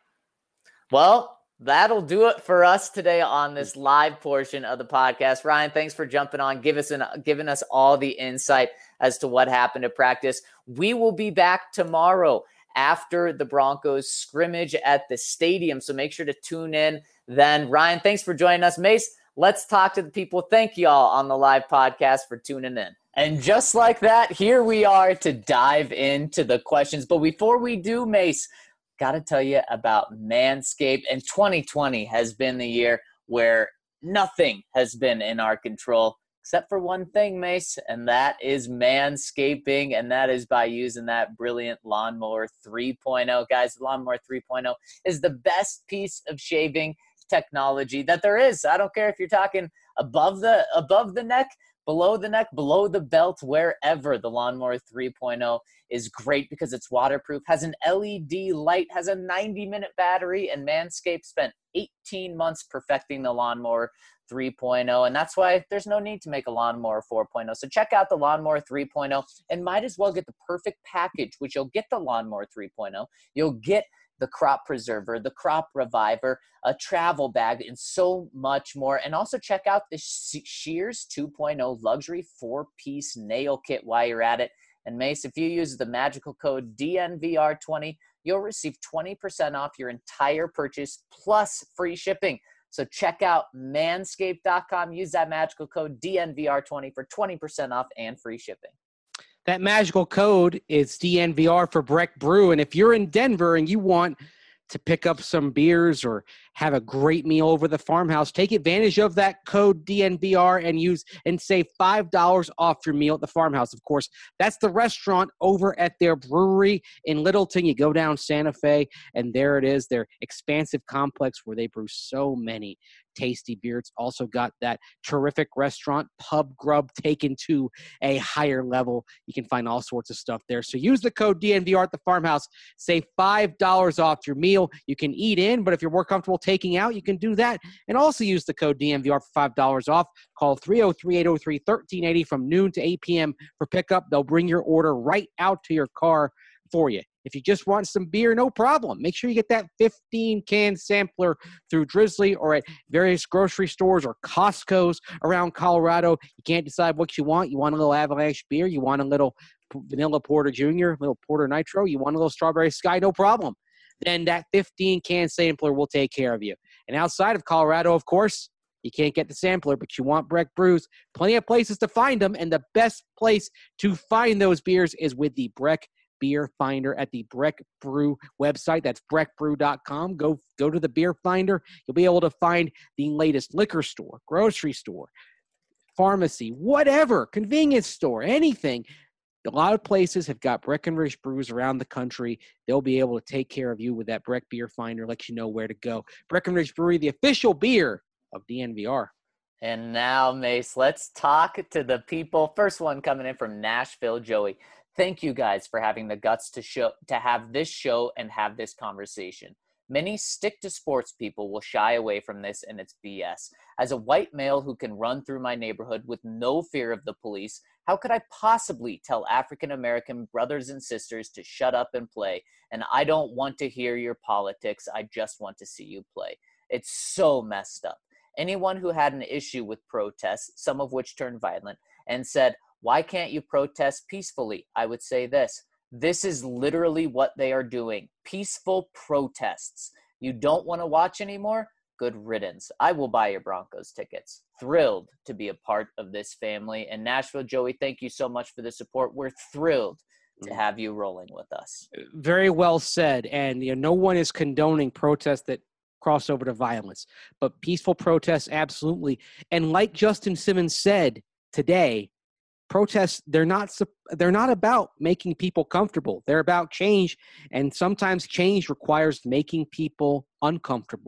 Well, that'll do it for us today on this live portion of the podcast. Ryan, thanks for jumping on, give us an, giving us all the insight as to what happened at practice. We will be back tomorrow after the Broncos scrimmage at the stadium, so make sure to tune in then. Ryan, thanks for joining us. Mace, let's talk to the people. Thank you all on the live podcast for tuning in. And just like that, here we are to dive into the questions. But before we do, Mace, got to tell you about Manscaped. And twenty twenty has been the year where nothing has been in our control except for one thing, Mace, and that is manscaping, and that is by using that brilliant Lawnmower three point oh. Guys, the Lawnmower three point oh is the best piece of shaving technology that there is. I don't care if you're talking above the above the neck, below the neck, below the belt, wherever. The Lawnmower three point oh is great because it's waterproof, has an L E D light, has a ninety minute battery, and Manscaped spent eighteen months perfecting the Lawnmower three point oh, and that's why there's no need to make a Lawnmower four point oh. So check out the Lawnmower three point oh and might as well get the perfect package, which you'll get the Lawnmower three point oh. You'll get the Crop Preserver, the Crop Reviver, a travel bag, and so much more. And also check out the Shears two point oh luxury four-piece nail kit while you're at it. And Mace, if you use the magical code D N V R twenty, you'll receive twenty percent off your entire purchase plus free shipping. So check out manscaped dot com. Use that magical code D N V R twenty for twenty percent off and free shipping. That magical code is D N V R for Breck Brew. And if you're in Denver and you want to pick up some beers or have a great meal over the farmhouse, take advantage of that code D N V R and use and save five dollars off your meal at the farmhouse. Of course, that's the restaurant over at their brewery in Littleton. You go down Santa Fe, and there it is, their expansive complex where they brew so many tasty beer. It's also got that terrific restaurant, Pub Grub, taken to a higher level. You can find all sorts of stuff there. So use the code D N V R at the farmhouse. Save five dollars off your meal. You can eat in, but if you're more comfortable taking out, you can do that. And also use the code D N V R for five dollars off. Call three oh three, eight oh three, one three eight oh from noon to eight p.m. for pickup. They'll bring your order right out to your car for you. If you just want some beer, no problem. Make sure you get that fifteen-can sampler through Drizzly or at various grocery stores or Costco's around Colorado. You can't decide what you want. You want a little Avalanche beer. You want a little Vanilla Porter Junior, a little Porter Nitro. You want a little Strawberry Sky, no problem. Then that fifteen-can sampler will take care of you. And outside of Colorado, of course, you can't get the sampler, but you want Breck Brews. Plenty of places to find them, and the best place to find those beers is with the Breck Beer Finder at the Breck Brew website. That's breck brew dot com. Go, go to the Beer Finder. You'll be able to find the latest liquor store, grocery store, pharmacy, whatever, convenience store, anything. A lot of places have got Breckenridge brews around the country. They'll be able to take care of you with that Breck Beer Finder, let you know where to go. Breckenridge Brewery, the official beer of D N V R. And now, Mace, let's talk to the people. First one coming in from Nashville, Joey. Thank you guys for having the guts to show to have this show and have this conversation. Many stick-to-sports people will shy away from this, and it's B S. As a white male who can run through my neighborhood with no fear of the police, how could I possibly tell African-American brothers and sisters to shut up and play? And I don't want to hear your politics. I just want to see you play. It's so messed up. Anyone who had an issue with protests, some of which turned violent, and said, why can't you protest peacefully? I would say this. This is literally what they are doing. Peaceful protests. You don't want to watch anymore? Good riddance. I will buy your Broncos tickets. Thrilled to be a part of this family. And Nashville, Joey, thank you so much for the support. We're thrilled to have you rolling with us. Very well said. And you know, no one is condoning protests that cross over to violence. But peaceful protests, absolutely. And like Justin Simmons said today, protests, they're not they're not about making people comfortable. They're about change, and sometimes change requires making people uncomfortable.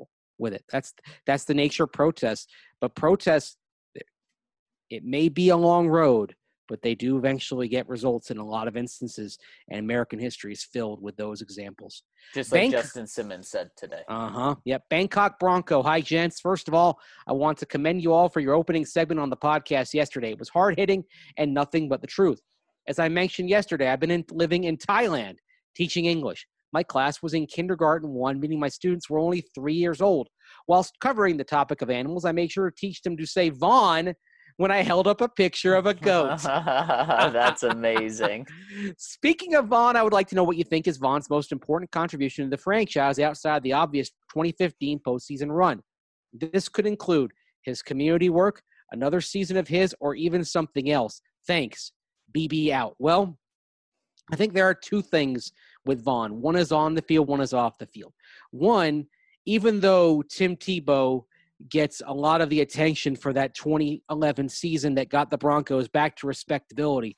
with it. That's that's the nature of protests. But protests, it may be a long road, but they do eventually get results in a lot of instances, and American history is filled with those examples. Just like Bank- Justin Simmons said today. Uh-huh. Yep. Bangkok Bronco. Hi, gents. First of all, I want to commend you all for your opening segment on the podcast yesterday. It was hard-hitting and nothing but the truth. As I mentioned yesterday, I've been in, living in Thailand teaching English. My class was in kindergarten one, meaning my students were only three years old. Whilst covering the topic of animals, I made sure to teach them to say Vaughn when I held up a picture of a goat. That's amazing. Speaking of Vaughn, I would like to know what you think is Vaughn's most important contribution to the franchise outside the obvious twenty fifteen postseason run. This could include his community work, another season of his, or even something else. Thanks. B B out. Well, I think there are two things with Vaughn. One is on the field, one is off the field. One, even though Tim Tebow gets a lot of the attention for that twenty eleven season that got the Broncos back to respectability,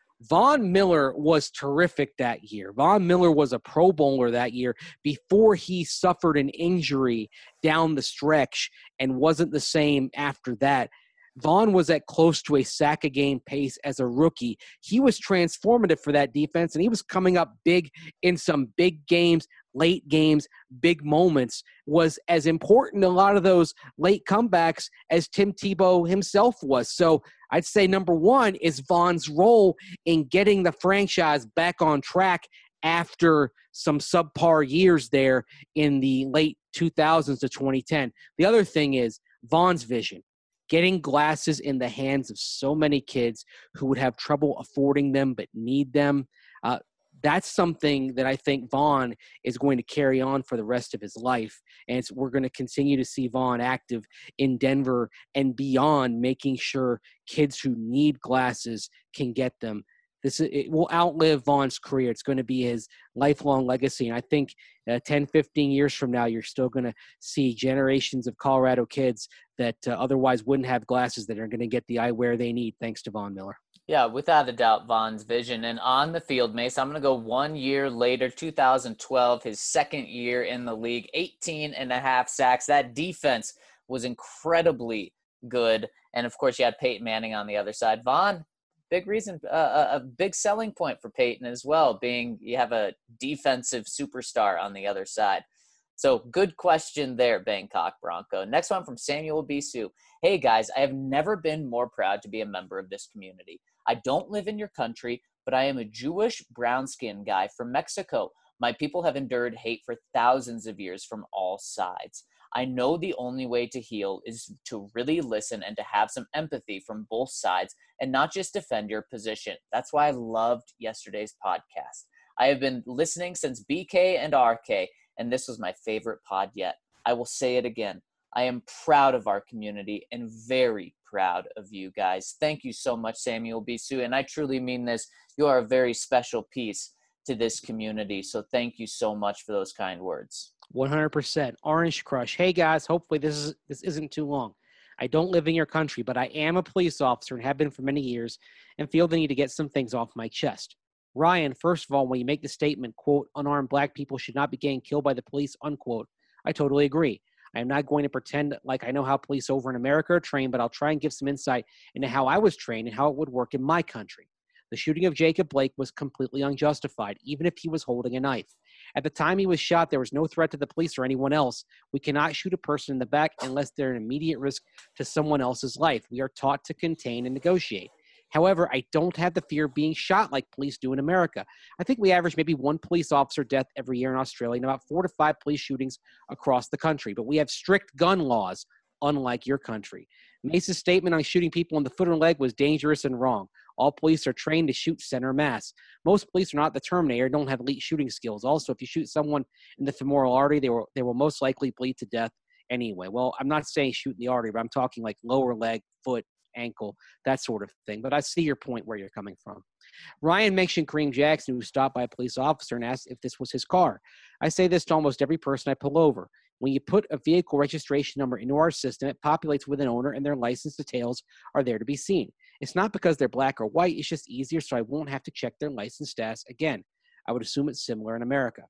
Von Miller was terrific that year. Von Miller was a Pro Bowler that year before he suffered an injury down the stretch and wasn't the same after that. Vaughn was at close to a sack a game pace as a rookie. He was transformative for that defense, and he was coming up big in some big games, late games, big moments, was as important in a lot of those late comebacks as Tim Tebow himself was. So I'd say number one is Vaughn's role in getting the franchise back on track after some subpar years there in the late two thousands to twenty ten. The other thing is Vaughn's vision. Getting glasses in the hands of so many kids who would have trouble affording them but need them. Uh, that's something that I think Vaughn is going to carry on for the rest of his life. And it's, we're going to continue to see Vaughn active in Denver and beyond, making sure kids who need glasses can get them. This it will outlive Vaughn's career. It's going to be his lifelong legacy. And I think uh, ten, fifteen years from now, you're still going to see generations of Colorado kids that uh, otherwise wouldn't have glasses that are going to get the eyewear they need thanks to Von Miller. Yeah, without a doubt, Vaughn's vision. And on the field, Mace, I'm going to go one year later, two thousand twelve, his second year in the league, eighteen and a half sacks. That defense was incredibly good. And, of course, you had Peyton Manning on the other side. Vaughn, big reason, uh, a big selling point for Peyton as well, being you have a defensive superstar on the other side. So good question there, Bangkok Bronco. Next one from Samuel Bisu. Hey, guys, I have never been more proud to be a member of this community. I don't live in your country, but I am a Jewish brown-skinned guy from Mexico. My people have endured hate for thousands of years from all sides. I know the only way to heal is to really listen and to have some empathy from both sides and not just defend your position. That's why I loved yesterday's podcast. I have been listening since B K and R K, and this was my favorite pod yet. I will say it again. I am proud of our community and very proud of you guys. Thank you so much, Samuel Bisu, and I truly mean this. You are a very special piece to this community, so thank you so much for those kind words. one hundred percent. Orange Crush. Hey, guys, hopefully this is this isn't too long. I don't live in your country, but I am a police officer and have been for many years and feel the need to get some things off my chest. Ryan, first of all, when you make the statement, quote, unarmed black people should not be getting killed by the police, unquote, I totally agree. I am not going to pretend like I know how police over in America are trained, but I'll try and give some insight into how I was trained and how it would work in my country. The shooting of Jacob Blake was completely unjustified, even if he was holding a knife. At the time he was shot, there was no threat to the police or anyone else. We cannot shoot a person in the back unless they're an immediate risk to someone else's life. We are taught to contain and negotiate. However, I don't have the fear of being shot like police do in America. I think we average maybe one police officer death every year in Australia and about four to five police shootings across the country. But we have strict gun laws, unlike your country. Mace's statement on shooting people in the foot or leg was dangerous and wrong. All police are trained to shoot center mass. Most police are not the Terminator, don't have elite shooting skills. Also, if you shoot someone in the femoral artery, they will, they will most likely bleed to death anyway. Well, I'm not saying shoot in the artery, but I'm talking like lower leg, foot, ankle, that sort of thing. But I see your point where you're coming from. Ryan mentioned Kareem Jackson, who was stopped by a police officer and asked if this was his car. I say this to almost every person I pull over. When you put a vehicle registration number into our system, it populates with an owner and their license details are there to be seen. It's not because they're black or white. It's just easier so I won't have to check their license status again. I would assume it's similar in America.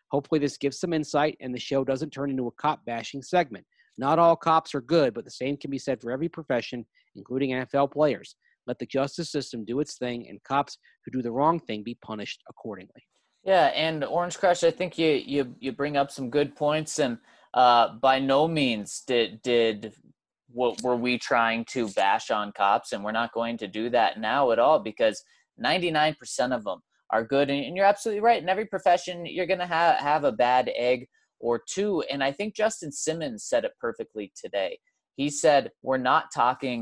Hopefully this gives some insight and the show doesn't turn into a cop bashing segment. Not all cops are good, but the same can be said for every profession, including N F L players. Let the justice system do its thing and cops who do the wrong thing be punished accordingly. Yeah, and Orange Crush, I think you you you bring up some good points, and uh, by no means did did what were we trying to bash on cops, and we're not going to do that now at all, because ninety-nine percent of them are good, and, and you're absolutely right. In every profession, you're going to have have a bad egg or two, and I think Justin Simmons said it perfectly today. He said, "We're not talking.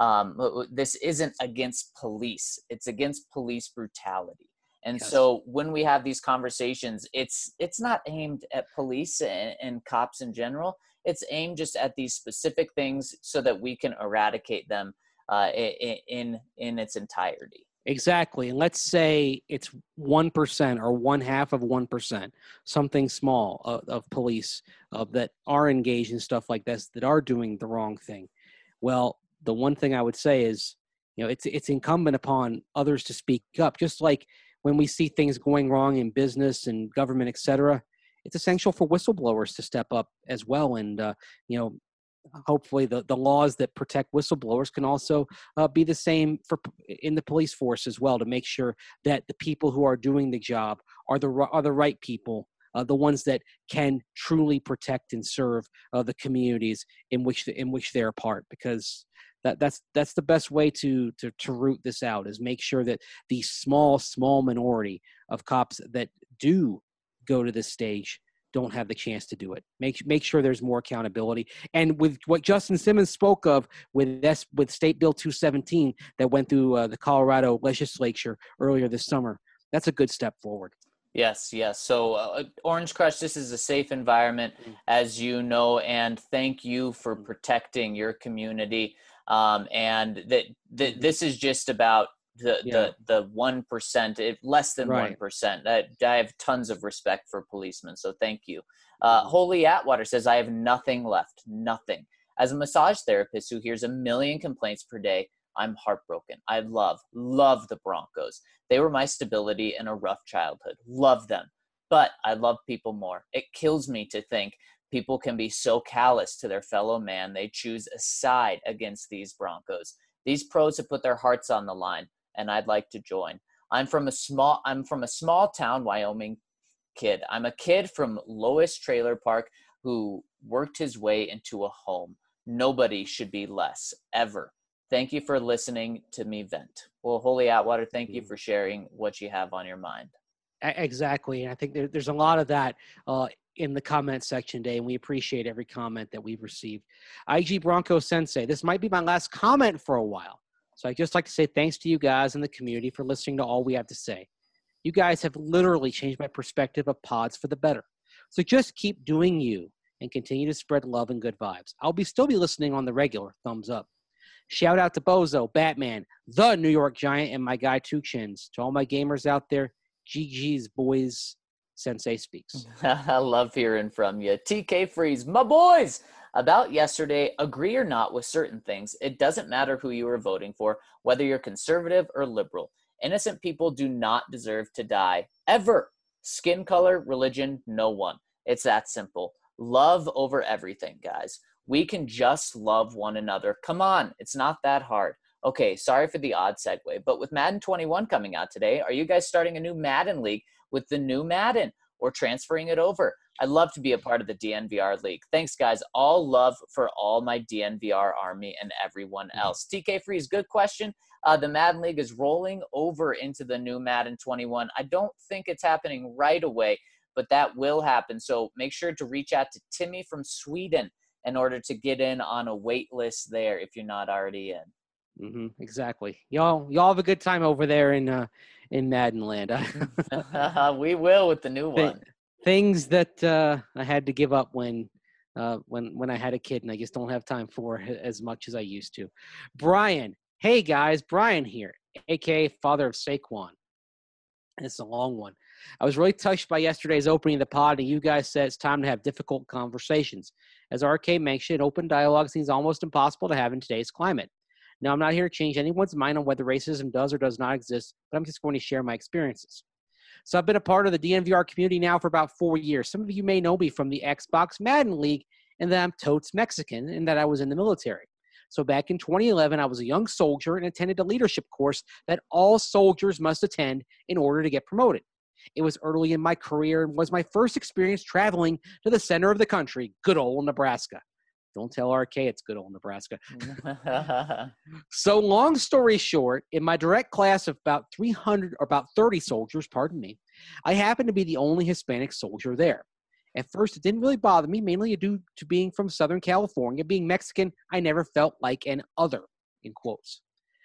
Um, this isn't against police; it's against police brutality." And Yes. so when we have these conversations, it's it's not aimed at police and, and cops in general. It's aimed just at these specific things so that we can eradicate them uh, in, in in its entirety. Exactly. And let's say it's one percent or one half of one percent, something small of, of police uh, that are engaged in stuff like this, that are doing the wrong thing. Well, the one thing I would say is, you know, it's it's incumbent upon others to speak up, just like when we see things going wrong in business and government, et cetera. It's essential for whistleblowers to step up as well. And, uh, you know, hopefully the, the laws that protect whistleblowers can also uh, be the same for in the police force as well, to make sure that the people who are doing the job are the, are the right people, uh, the ones that can truly protect and serve uh, the communities in which, the, in which they're a part, because That, that's that's the best way to, to to root this out, is make sure that the small, small minority of cops that do go to this stage don't have the chance to do it. Make make sure there's more accountability. And with what Justin Simmons spoke of with this, with State Bill two seventeen that went through uh, the Colorado legislature earlier this summer, that's a good step forward. Yes, yes. So uh, Orange Crush, this is a safe environment, as you know, and thank you for protecting your community. Um, and that, that this is just about the, Yeah. the, the one percent, less than Right. one percent. That I have tons of respect for policemen. So thank you. Uh, Holy Atwater says, I have nothing left, nothing. As a massage therapist who hears a million complaints per day, I'm heartbroken. I love, love the Broncos. They were my stability in a rough childhood. Love them. But I love people more. It kills me to think people can be so callous to their fellow man they choose a side against these Broncos. These pros have put their hearts on the line, and I'd like to join. I'm from a small I'm from a small town Wyoming kid. I'm a kid from Lois Trailer Park who worked his way into a home. Nobody should be less, ever. Thank you for listening to me vent. Well, Holy Atwater, thank you for sharing what you have on your mind. Exactly. And I think there, there's a lot of that uh, in the comment section today, and we appreciate every comment that we've received. I G Bronco Sensei, this might be my last comment for a while. So I'd just like to say thanks to you guys in the community for listening to all we have to say. You guys have literally changed my perspective of pods for the better. So just keep doing you and continue to spread love and good vibes. I'll be still be listening on the regular. Thumbs up. Shout out to Bozo, Batman, the New York Giant, and my guy Two Chins. To all my gamers out there, G G's boys, Sensei speaks. I love hearing from you. T K Freeze, my boys! About yesterday, agree or not with certain things, it doesn't matter who you are voting for, whether you're conservative or liberal. Innocent people do not deserve to die, ever. Skin color, religion, no one. It's that simple. Love over everything, guys. We can just love one another. Come on, it's not that hard. Okay, sorry for the odd segue, but with Madden twenty-one coming out today, are you guys starting a new Madden league with the new Madden or transferring it over? I'd love to be a part of the D N V R league. Thanks, guys. All love for all my D N V R army and everyone else. T K Freeze, good question. Uh, the Madden league is rolling over into the new Madden twenty-one. I don't think it's happening right away, but that will happen. So make sure to reach out to Timmy from Sweden in order to get in on a wait list there if you're not already in. Mm-hmm, exactly. Y'all, y'all have a good time over there in uh, in Madden Land. We will with the new Th- one. Things that uh, I had to give up when uh, when when I had a kid, and I just don't have time for as much as I used to. Brian, hey guys, Brian here, aka father of Saquon. It's a long one. I was really touched by yesterday's opening of the pod, and you guys said it's time to have difficult conversations. As R K mentioned, open dialogue seems almost impossible to have in today's climate. Now, I'm not here to change anyone's mind on whether racism does or does not exist, but I'm just going to share my experiences. So I've been a part of the D N V R community now for about four years. Some of you may know me from the Xbox Madden League, and that I'm totes Mexican and that I was in the military. So back in twenty eleven, I was a young soldier and attended a leadership course that all soldiers must attend in order to get promoted. It was early in my career and was my first experience traveling to the center of the country, good old Nebraska. Don't tell R K it's good old Nebraska. So long story short, in my direct class of about three hundred or about thirty soldiers, pardon me, I happened to be the only Hispanic soldier there. At first, it didn't really bother me, mainly due to being from Southern California. Being Mexican, I never felt like an other, in quotes.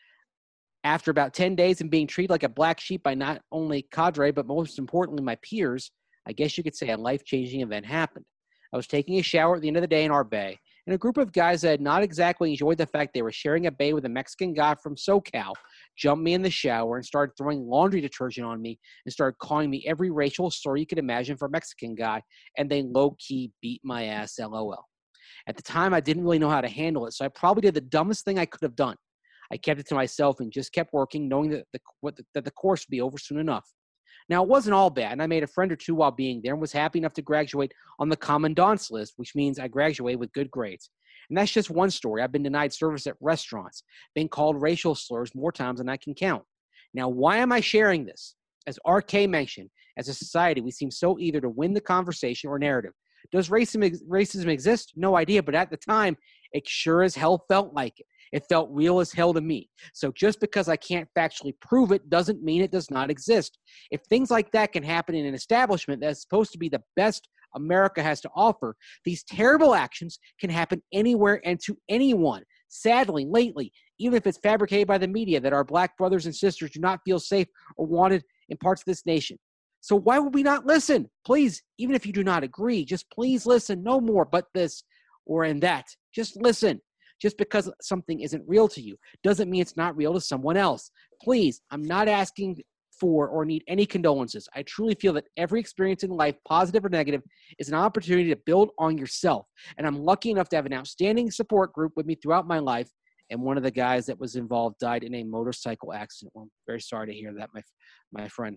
After about ten days and being treated like a black sheep by not only cadre, but most importantly, my peers, I guess you could say a life-changing event happened. I was taking a shower at the end of the day in our bay, and a group of guys that had not exactly enjoyed the fact they were sharing a bay with a Mexican guy from SoCal jumped me in the shower and started throwing laundry detergent on me and started calling me every racial slur you could imagine for a Mexican guy, and they low-key beat my ass, LOL. At the time, I didn't really know how to handle it, so I probably did the dumbest thing I could have done. I kept it to myself and just kept working, knowing that the, what the, that the course would be over soon enough. Now, it wasn't all bad, and I made a friend or two while being there and was happy enough to graduate on the commandant's list, which means I graduated with good grades. And that's just one story. I've been denied service at restaurants, been called racial slurs more times than I can count. Now, why am I sharing this? As R K mentioned, as a society, we seem so eager to win the conversation or narrative. Does racism, racism exist? No idea, but at the time, it sure as hell felt like it. It felt real as hell to me. So just because I can't factually prove it doesn't mean it does not exist. If things like that can happen in an establishment that's supposed to be the best America has to offer, these terrible actions can happen anywhere and to anyone. Sadly, lately, even if it's fabricated by the media that our black brothers and sisters do not feel safe or wanted in parts of this nation. So why would we not listen? Please, even if you do not agree, just please listen. No more but this or in that. Just listen. Just because something isn't real to you doesn't mean it's not real to someone else. Please, I'm not asking for or need any condolences. I truly feel that every experience in life, positive or negative, is an opportunity to build on yourself. And I'm lucky enough to have an outstanding support group with me throughout my life. And one of the guys that was involved died in a motorcycle accident. Well, I'm very sorry to hear that, my, my friend.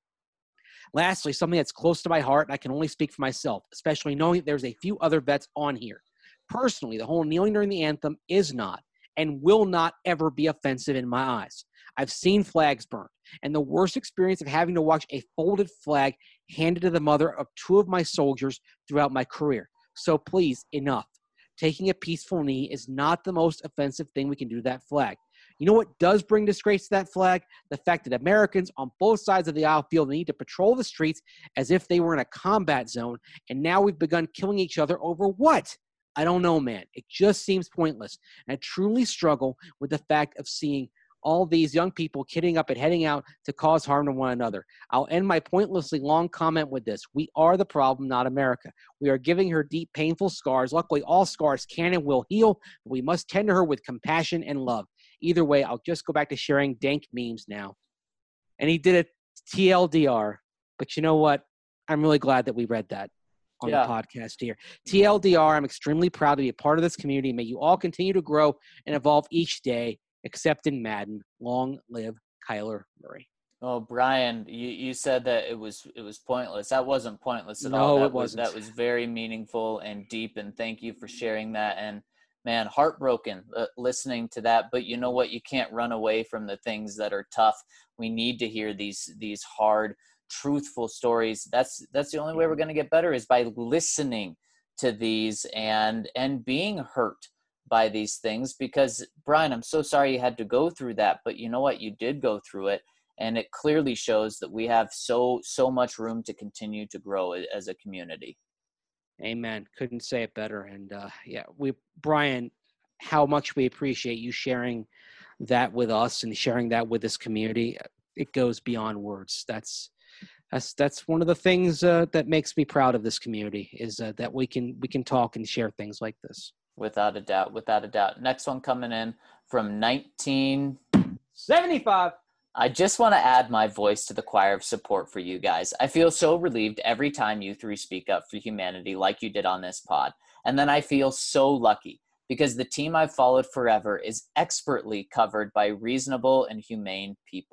Lastly, something that's close to my heart, and I can only speak for myself, especially knowing that there's a few other vets on here. Personally, the whole kneeling during the anthem is not and will not ever be offensive in my eyes. I've seen flags burned, and the worst experience of having to watch a folded flag handed to the mother of two of my soldiers throughout my career. So please, enough. Taking a peaceful knee is not the most offensive thing we can do to that flag. You know what does bring disgrace to that flag? The fact that Americans on both sides of the aisle feel the need to patrol the streets as if they were in a combat zone, and now we've begun killing each other over what? I don't know, man. It just seems pointless. And I truly struggle with the fact of seeing all these young people kidding up and heading out to cause harm to one another. I'll end my pointlessly long comment with this. We are the problem, not America. We are giving her deep, painful scars. Luckily, all scars can and will heal, but we must tend to her with compassion and love. Either way, I'll just go back to sharing dank memes now. And he did a T L D R. But you know what? I'm really glad that we read that on yeah. the podcast here. T L D R, I'm extremely proud to be a part of this community. May you all continue to grow and evolve each day, except in Madden. Long live Kyler Murray. Oh, Brian, you, you said that it was it was pointless. That wasn't pointless at no, all. That it wasn't. Was, that was very meaningful and deep, and thank you for sharing that. And, man, heartbroken uh, listening to that. But you know what? You can't run away from the things that are tough. We need to hear these these hard, truthful stories. That's that's the only way we're going to get better, is by listening to these and and being hurt by these things. Because, Brian, I'm so sorry you had to go through that, but you know what? You did go through it, and it clearly shows that we have so so much room to continue to grow as a community. Amen. Couldn't say it better. And uh, yeah, we, Brian, how much we appreciate you sharing that with us and sharing that with this community. It goes beyond words. That's That's that's one of the things uh, that makes me proud of this community, is uh, that we can we can talk and share things like this. Without a doubt, without a doubt. Next one coming in from nineteen seventy-five. I just want to add my voice to the choir of support for you guys. I feel so relieved every time you three speak up for humanity like you did on this pod. And then I feel so lucky because the team I've followed forever is expertly covered by reasonable and humane people.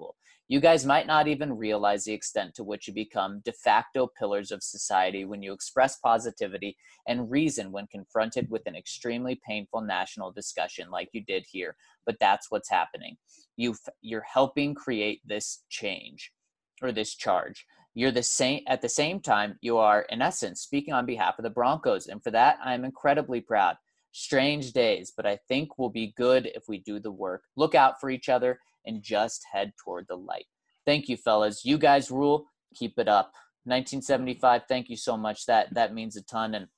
You guys might not even realize the extent to which you become de facto pillars of society when you express positivity and reason when confronted with an extremely painful national discussion like you did here. But that's what's happening. You you're helping create this change or this charge. You're the same at the same time, you are in essence speaking on behalf of the Broncos. And for that, I'm incredibly proud. Strange days, but I think we'll be good if we do the work. Look out for each other and just head toward the light. Thank you, fellas. You guys rule. Keep it up. nineteen seventy-five, thank you so much. That that means a ton. And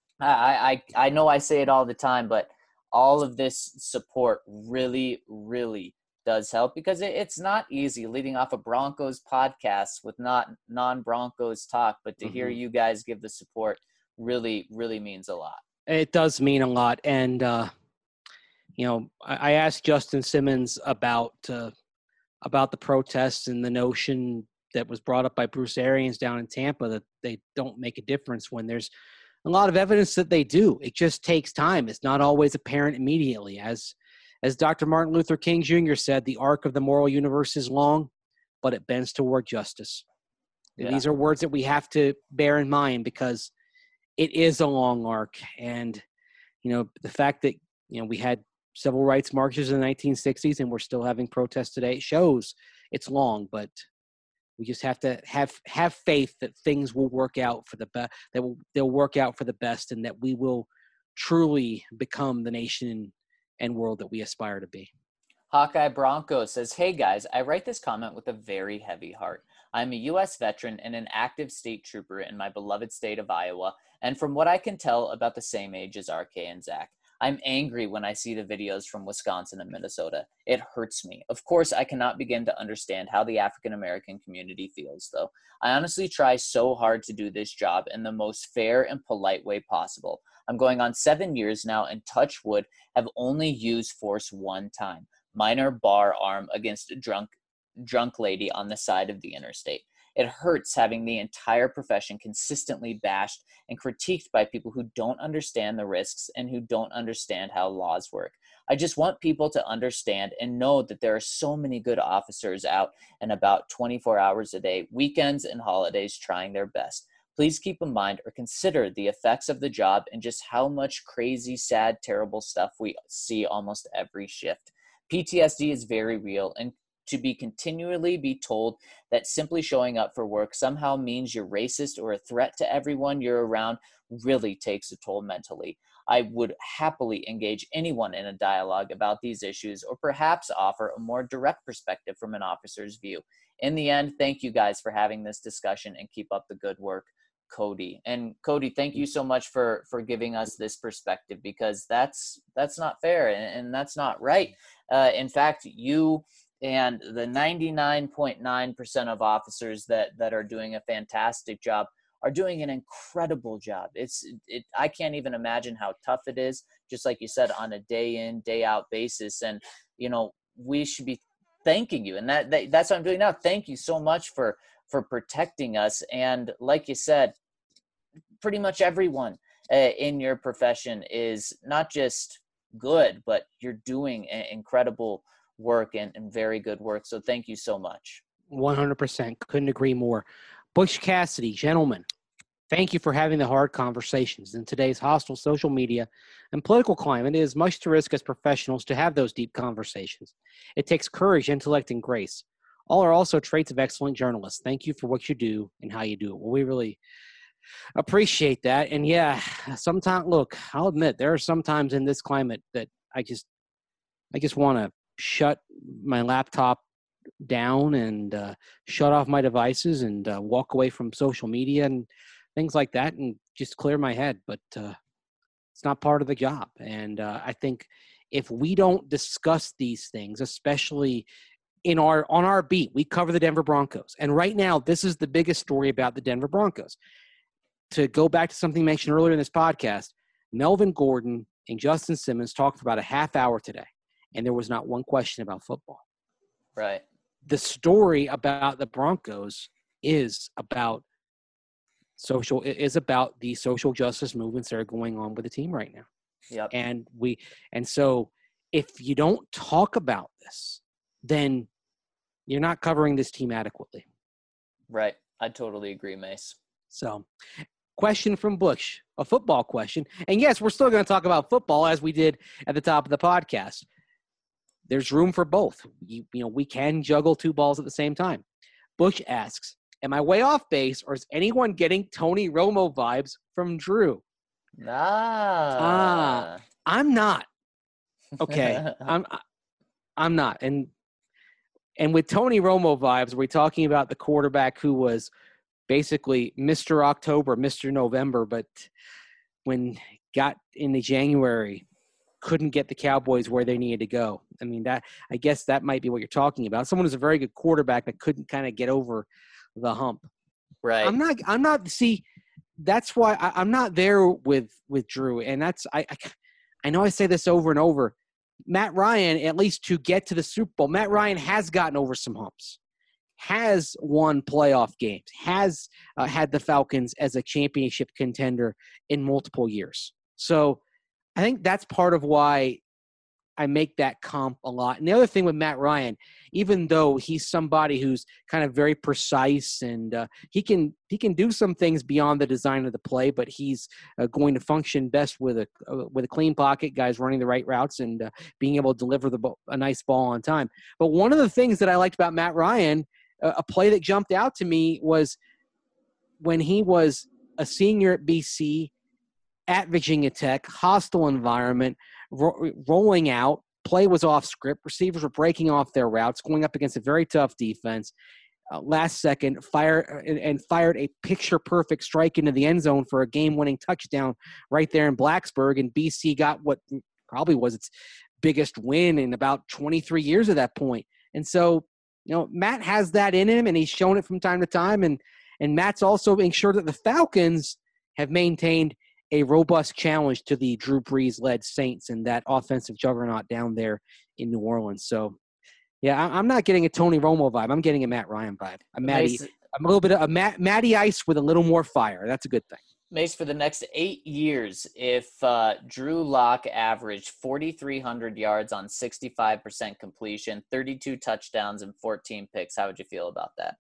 I, I, I know I say it all the time, but all of this support really, really does help, because it, it's not easy leading off a Broncos podcast with not non-Broncos talk, but to mm-hmm. hear you guys give the support really, really means a lot. It does mean a lot. And, uh, you know, I, I asked Justin Simmons about, uh, about the protests and the notion that was brought up by Bruce Arians down in Tampa that they don't make a difference when there's a lot of evidence that they do. It just takes time. It's not always apparent immediately. As As Doctor Martin Luther King Junior said, the arc of the moral universe is long, but it bends toward justice. Yeah. These are words that we have to bear in mind, because it is a long arc. And, you know, the fact that, you know, we had civil rights marches in the nineteen sixties and we're still having protests today shows it's long, but we just have to have, have faith that things will work out for the best, that will, they'll work out for the best, and that we will truly become the nation and world that we aspire to be. Hawkeye Bronco says, hey guys, I write this comment with a very heavy heart. I'm a U S veteran and an active state trooper in my beloved state of Iowa, and from what I can tell, about the same age as R K and Zach. I'm angry when I see the videos from Wisconsin and Minnesota. It hurts me. Of course, I cannot begin to understand how the African-American community feels, though. I honestly try so hard to do this job in the most fair and polite way possible. I'm going on seven years now, and touch wood, have only used force one time. Minor bar arm against a drunk, drunk lady on the side of the interstate. It hurts having the entire profession consistently bashed and critiqued by people who don't understand the risks and who don't understand how laws work. I just want people to understand and know that there are so many good officers out and about twenty-four hours a day, weekends and holidays, trying their best. Please keep in mind or consider the effects of the job and just how much crazy, sad, terrible stuff we see almost every shift. P T S D is very real, and to be continually be told that simply showing up for work somehow means you're racist or a threat to everyone you're around really takes a toll mentally. I would happily engage anyone in a dialogue about these issues, or perhaps offer a more direct perspective from an officer's view. In the end, thank you guys for having this discussion, and keep up the good work, Cody. And Cody, thank you so much for for giving us this perspective, because that's that's not fair, and, and that's not right. Uh, in fact, you and the ninety-nine point nine percent of officers that that are doing a fantastic job are doing an incredible job. It's it I can't even imagine how tough it is, just like you said, on a day in, day out basis. And you know, we should be thanking you, and that, that that's what I'm doing now. Thank you so much for for protecting us. And like you said, pretty much everyone uh, in your profession is not just good, but you're doing a- incredible work and, and very good work. So thank you so much. one hundred percent. Couldn't agree more. Butch Cassidy, gentlemen, thank you for having the hard conversations. In today's hostile social media and political climate, it is much to risk as professionals to have those deep conversations. It takes courage, intellect, and grace. All are also traits of excellent journalists. Thank you for what you do and how you do it. Well, we really appreciate that. And yeah, sometimes, look, I'll admit there are some times in this climate that I just, I just want to shut my laptop down and uh, shut off my devices and uh, walk away from social media and things like that and just clear my head. But uh, it's not part of the job. And uh, I think if we don't discuss these things, especially in our on our beat, we cover the Denver Broncos. And right now, this is the biggest story about the Denver Broncos. To go back to something mentioned earlier in this podcast, Melvin Gordon and Justin Simmons talked for about a half hour today, and there was not one question about football. Right. The story about the Broncos is about social is about the social justice movements that are going on with the team right now. Yep. And we and so if you don't talk about this, then you're not covering this team adequately. Right. I totally agree, Mace. So, question from Bush, a football question. And yes, we're still going to talk about football as we did at the top of the podcast. There's room for both. You, you know, we can juggle two balls at the same time. Bush asks, am I way off base, or is anyone getting Tony Romo vibes from Drew? Ah. Ah, I'm not. Okay. I'm I'm not. And and with Tony Romo vibes, we're talking about the quarterback who was basically Mister October, Mister November, but when got into January, couldn't get the Cowboys where they needed to go. I mean, that I guess that might be what you're talking about. Someone who's a very good quarterback that couldn't kind of get over the hump. Right. I'm not. I'm not. See, that's why I, I'm not there with with Drew, and that's I, I. I know I say this over and over. Matt Ryan, at least to get to the Super Bowl, Matt Ryan has gotten over some humps, has won playoff games, has uh, had the Falcons as a championship contender in multiple years. So I think that's part of why I make that comp a lot. And the other thing with Matt Ryan, even though he's somebody who's kind of very precise and uh, he can he can do some things beyond the design of the play, but he's uh, going to function best with a uh, with a clean pocket, guys running the right routes and uh, being able to deliver the ball, a nice ball on time. But one of the things that I liked about Matt Ryan, uh, a play that jumped out to me, was when he was a senior at B C, at Virginia Tech, hostile environment, ro- rolling out, play was off script, receivers were breaking off their routes, going up against a very tough defense. Uh, last second, fire and, and fired a picture-perfect strike into the end zone for a game-winning touchdown right there in Blacksburg, and B C got what probably was its biggest win in about twenty-three years at that point. And so, you know, Matt has that in him, and he's shown it from time to time, and and Matt's also being sure that the Falcons have maintained a robust challenge to the Drew Brees-led Saints and that offensive juggernaut down there in New Orleans. So, yeah, I'm not getting a Tony Romo vibe. I'm getting a Matt Ryan vibe. A Matty, Mace, I'm a little bit of a Matt, Matty Ice with a little more fire. That's a good thing. Mace, for the next eight years, if uh, Drew Lock averaged forty-three hundred yards on sixty-five percent completion, thirty-two touchdowns, and fourteen picks, how would you feel about that?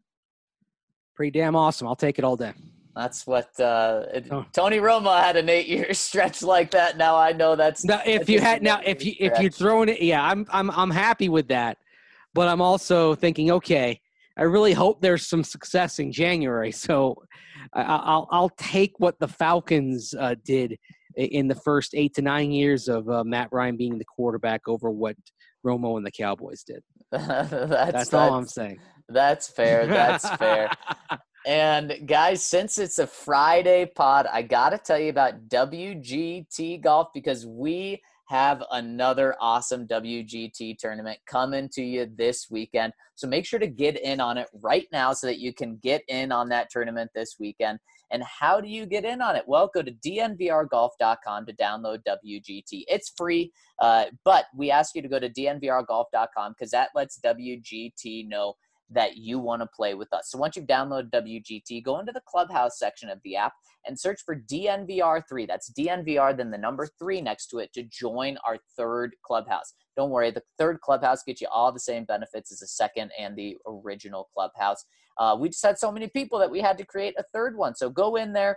Pretty damn awesome. I'll take it all day. That's what uh, it, Oh. Tony Romo had an eight-year stretch like that. Now I know that's Now, if that's you just had an now, eight-year if you if stretch. you're throwing it, yeah, I'm I'm I'm happy with that, but I'm also thinking, okay, I really hope there's some success in January. So I, I'll I'll take what the Falcons uh, did in the first eight to nine years of uh, Matt Ryan being the quarterback over what Romo and the Cowboys did. that's, That's, that's all I'm saying. That's fair. That's fair. And guys, since it's a Friday pod, I got to tell you about W G T Golf because we have another awesome W G T tournament coming to you this weekend. So make sure to get in on it right now so that you can get in on that tournament this weekend. And how do you get in on it? Well, go to D N V R golf dot com to download W G T. It's free, uh, but we ask you to go to D N V R golf dot com because that lets W G T know that you want to play with us. So once you've downloaded W G T, go into the Clubhouse section of the app and search for D N V R three. That's D N V R, then the number three next to it to join our third Clubhouse. Don't worry, the third Clubhouse gets you all the same benefits as the second and the original Clubhouse. Uh, we just had so many people that we had to create a third one. So go in there,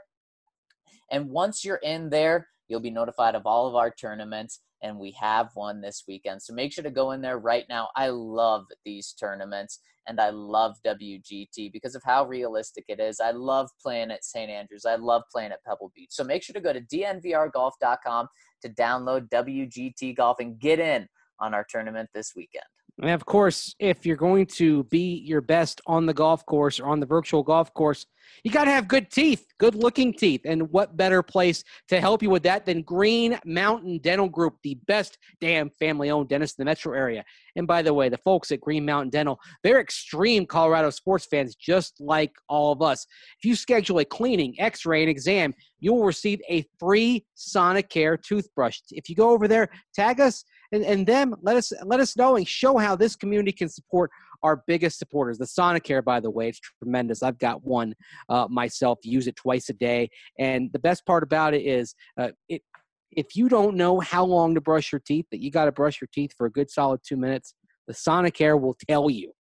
and once you're in there, you'll be notified of all of our tournaments, and we have one this weekend. So make sure to go in there right now. I love these tournaments, and I love W G T because of how realistic it is. I love playing at Saint Andrews. I love playing at Pebble Beach. So make sure to go to D N V R golf dot com to download W G T Golf and get in on our tournament this weekend. And of course, if you're going to be your best on the golf course or on the virtual golf course, you got to have good teeth, good looking teeth. And what better place to help you with that than Green Mountain Dental Group, the best damn family owned dentist in the metro area. And by the way, the folks at Green Mountain Dental, they're extreme Colorado sports fans, just like all of us. If you schedule a cleaning, x-ray, and exam, you will receive a free Sonicare toothbrush. If you go over there, tag us and, and them, let us let us know and show how this community can support our biggest supporters. The Sonicare, by the way, it's tremendous. I've got one uh, myself, use it twice a day. And the best part about it is uh, it, if you don't know how long to brush your teeth, that you got to brush your teeth for a good solid two minutes, the Sonicare will tell you.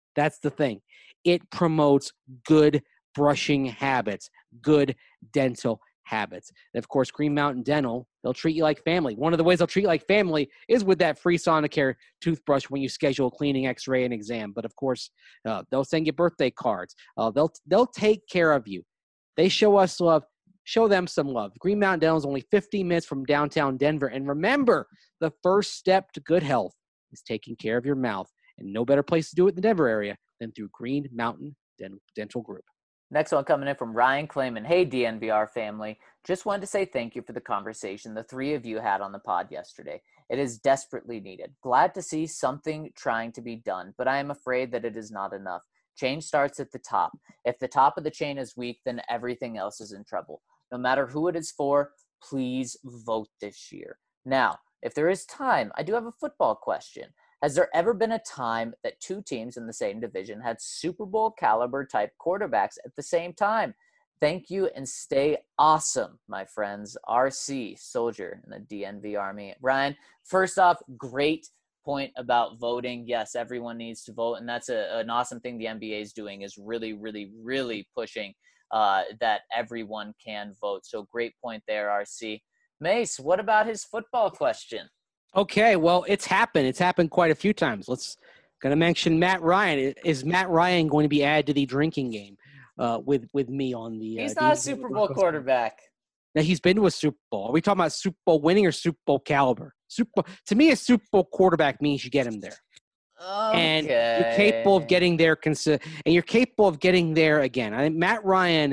That's the thing. It promotes good brushing habits, good dental habits. And of course, Green Mountain Dental, they'll treat you like family. One of the ways they'll treat you like family is with that free Sonicare toothbrush when you schedule a cleaning, x-ray, and exam. But of course, uh, they'll send you birthday cards. Uh, they'll they'll take care of you. They show us love. Show them some love. Green Mountain Dental is only fifteen minutes from downtown Denver. And remember, the first step to good health is taking care of your mouth. And no better place to do it in the Denver area than through Green Mountain Dental Group. Next one coming in from Ryan Clayman. Hey, D N V R family. Just wanted to say thank you for the conversation the three of you had on the pod yesterday. It is desperately needed. Glad to see something trying to be done, but I am afraid that it is not enough. Change starts at the top. If the top of the chain is weak, then everything else is in trouble. No matter who it is for, please vote this year. Now, if there is time, I do have a football question. Has there ever been a time that two teams in the same division had Super Bowl caliber type quarterbacks at the same time? Thank you and stay awesome, my friends. R C, soldier in the D N V Army. Ryan, first off, great point about voting. Yes, everyone needs to vote, and that's a, an awesome thing the N B A is doing, is really, really, really pushing uh, that everyone can vote. So great point there, R C. Mace, what about his football question? Okay, well, it's happened. It's happened quite a few times. Let's going to mention Matt Ryan. Is Matt Ryan going to be added to the drinking game uh, with with me on the? He's uh, not the, a Super Bowl quarterback. Now, he's been to a Super Bowl. Are we talking about Super Bowl winning or Super Bowl caliber? Super Bowl, to me, a Super Bowl quarterback means you get him there, okay. and you're capable of getting there. Consi- and you're capable of getting there again. I think Matt Ryan,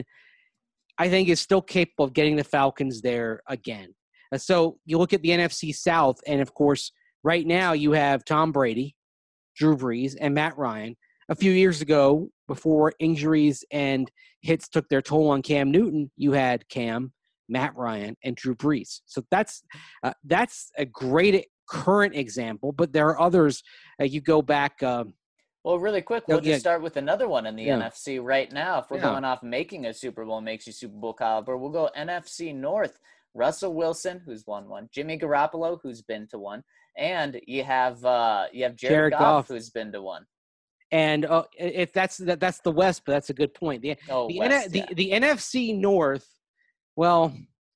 I think, is still capable of getting the Falcons there again. Uh, so you look at the N F C South, and of course, right now you have Tom Brady, Drew Brees, and Matt Ryan. A few years ago, before injuries and hits took their toll on Cam Newton, you had Cam, Matt Ryan, and Drew Brees. So that's uh, that's a great current example, but there are others. Uh, you go back. Um, well, really quick, we'll yeah, just start with another one in the yeah. N F C right now. If we're Yeah. going off making a Super Bowl makes you Super Bowl caliber, we'll go N F C North. Russell Wilson, who's won one, Jimmy Garoppolo, who's been to one, and you have uh, you have Jared, Jared Goff, Goff, who's been to one. And uh, if that's that, that's the West, but that's a good point. The Oh, the, West, N- yeah. the the N F C North. Well,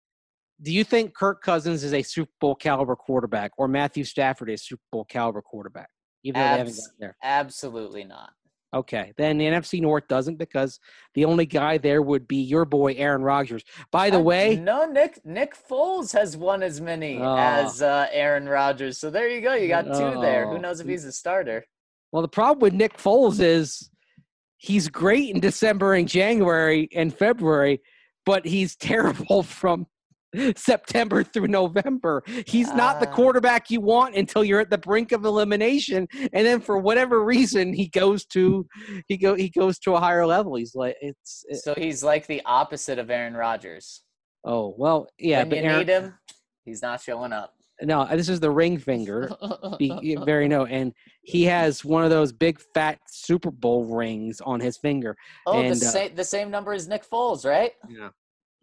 do you think Kirk Cousins is a Super Bowl caliber quarterback, or Matthew Stafford is a Super Bowl caliber quarterback? Even though Abs- they haven't gotten there. Absolutely not. Okay, then the N F C North doesn't, because the only guy there would be your boy Aaron Rodgers. By the I, way, no, Nick Nick Foles has won as many oh, as uh, Aaron Rodgers. So there you go. You got two oh, there. Who knows if he's a starter? Well, the problem with Nick Foles is he's great in December and January and February, but he's terrible from September through November. He's not the Uh, quarterback you want until you're at the brink of elimination, and then for whatever reason he goes to he go he goes to a higher level. He's like it's it, so he's like the opposite of Aaron Rodgers. oh well yeah, when but you Aaron, need him, he's not showing up. no, this is the ring finger. Be very no, and he has one of those big fat Super Bowl rings on his finger. oh, and, the uh, same the same number as Nick Foles, right? Yeah.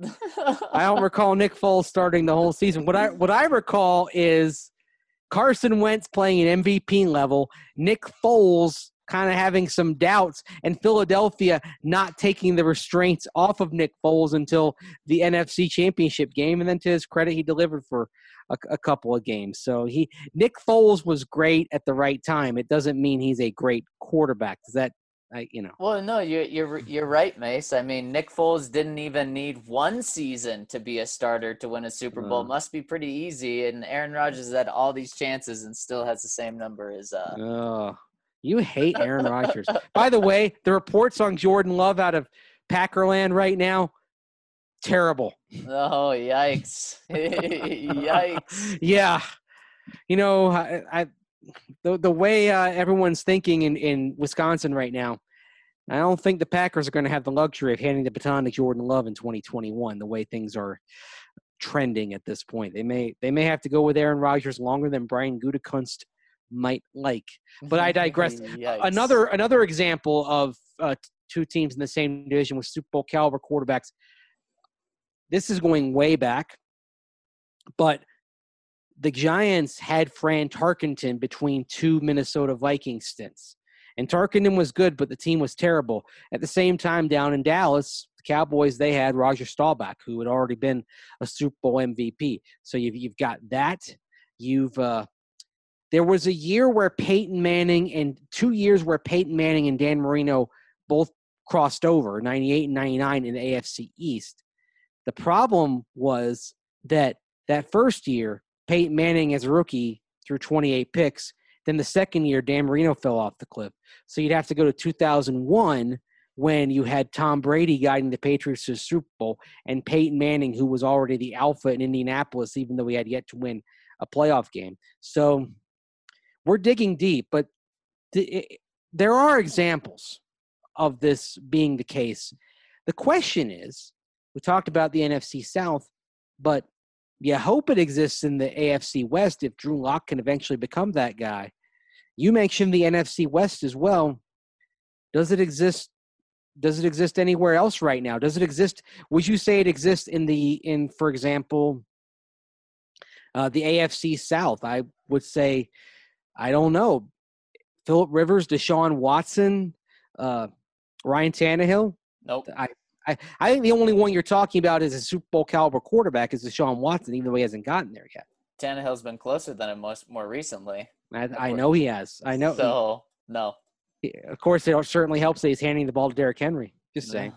I don't recall Nick Foles starting the whole season. What I what I recall is Carson Wentz playing an M V P level, Nick Foles kind of having some doubts, and Philadelphia not taking the restraints off of Nick Foles until the N F C Championship game. And then to his credit, he delivered for a, a couple of games. So he Nick Foles was great at the right time. It doesn't mean he's a great quarterback. Does that I, you know. Well, no, you're you're you're right, Mace. I mean, Nick Foles didn't even need one season to be a starter to win a Super Bowl. Uh, Must be pretty easy. And Aaron Rodgers has had all these chances and still has the same number as. Uh... Oh, you hate Aaron Rodgers. By the way, the reports on Jordan Love out of Packerland right now, terrible. Oh, yikes! Yikes! Yeah, you know, I. I The the way uh, everyone's thinking in, in Wisconsin right now, I don't think the Packers are going to have the luxury of handing the baton to Jordan Love in twenty twenty-one. The way things are trending at this point, they may they may have to go with Aaron Rodgers longer than Brian Gutekunst might like. But I digress. another another example of uh, two teams in the same division with Super Bowl caliber quarterbacks. This is going way back, but the Giants had Fran Tarkenton between two Minnesota Vikings stints. And Tarkinen was good, but the team was terrible. At the same time, down in Dallas, the Cowboys, they had Roger Staubach, who had already been a Super Bowl M V P. So you've, you've got that. You've uh, there was a year where Peyton Manning and two years where Peyton Manning and Dan Marino both crossed over, ninety-eight and ninety-nine in the A F C East. The problem was that that first year, Peyton Manning as a rookie threw twenty-eight picks. Then the second year, Dan Marino fell off the cliff. So you'd have to go to two thousand one when you had Tom Brady guiding the Patriots to the Super Bowl and Peyton Manning, who was already the alpha in Indianapolis, even though he had yet to win a playoff game. So we're digging deep, but th- it, there are examples of this being the case. The question is, we talked about the N F C South, but you hope it exists in the A F C West if Drew Lock can eventually become that guy. You mentioned the N F C West as well. Does it exist? Does it exist anywhere else right now? Does it exist? Would you say it exists in the in, for example, uh, the A F C South? I would say, I don't know. Phillip Rivers, Deshaun Watson, uh, Ryan Tannehill. Nope. I, I I think the only one you're talking about is a Super Bowl caliber quarterback is Deshaun Watson, even though he hasn't gotten there yet. Tannehill's been closer than him most more recently. I, I know he has. I know. So, no. Of course, it certainly helps that he's handing the ball to Derrick Henry. Just saying.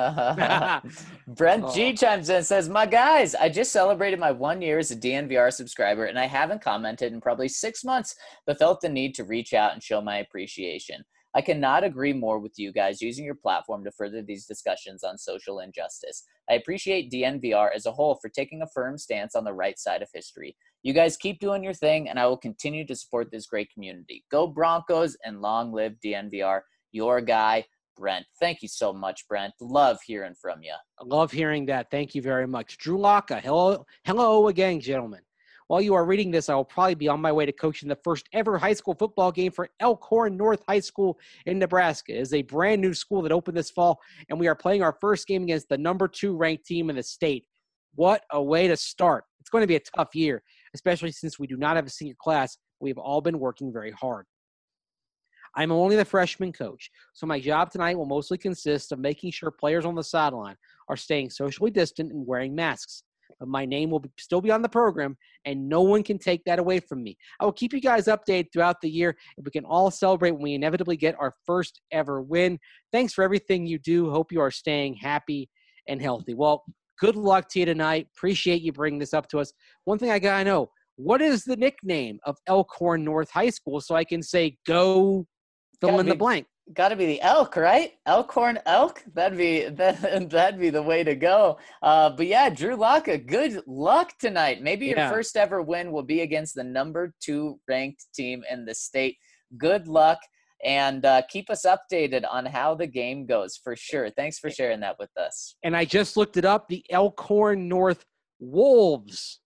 Brent G Oh. chimes in and says, my guys, I just celebrated my one year as a D N V R subscriber, and I haven't commented in probably six months, but felt the need to reach out and show my appreciation. I cannot agree more with you guys using your platform to further these discussions on social injustice. I appreciate D N V R as a whole for taking a firm stance on the right side of history. You guys keep doing your thing, and I will continue to support this great community. Go Broncos, and long live D N V R. Your guy, Brent. Thank you so much, Brent. Love hearing from you. I love hearing that. Thank you very much. Drew Locka, hello, hello again, gentlemen. While you are reading this, I will probably be on my way to coaching the first ever high school football game for Elkhorn North High School in Nebraska. It is a brand new school that opened this fall, and we are playing our first game against the number two ranked team in the state. What a way to start. It's going to be a tough year, especially since we do not have a senior class. We've all been working very hard. I'm only the freshman coach, so my job tonight will mostly consist of making sure players on the sideline are staying socially distant and wearing masks. But my name will be, still be on the program, and no one can take that away from me. I will keep you guys updated throughout the year, and we can all celebrate when we inevitably get our first ever win. Thanks for everything you do. Hope you are staying happy and healthy. Well, good luck to you tonight. Appreciate you bringing this up to us. One thing I got to know, what is the nickname of Elkhorn North High School so I can say go fill Gotta in be- the blank? Got to be the elk, right? Elkhorn elk. That'd be that, that'd be the way to go. Uh, but yeah, Drew Locka, good luck tonight. Maybe your Yeah. first ever win will be against the number two ranked team in the state. Good luck, and uh, keep us updated on how the game goes for sure. Thanks for sharing that with us. And I just looked it up. The Elkhorn North Wolves.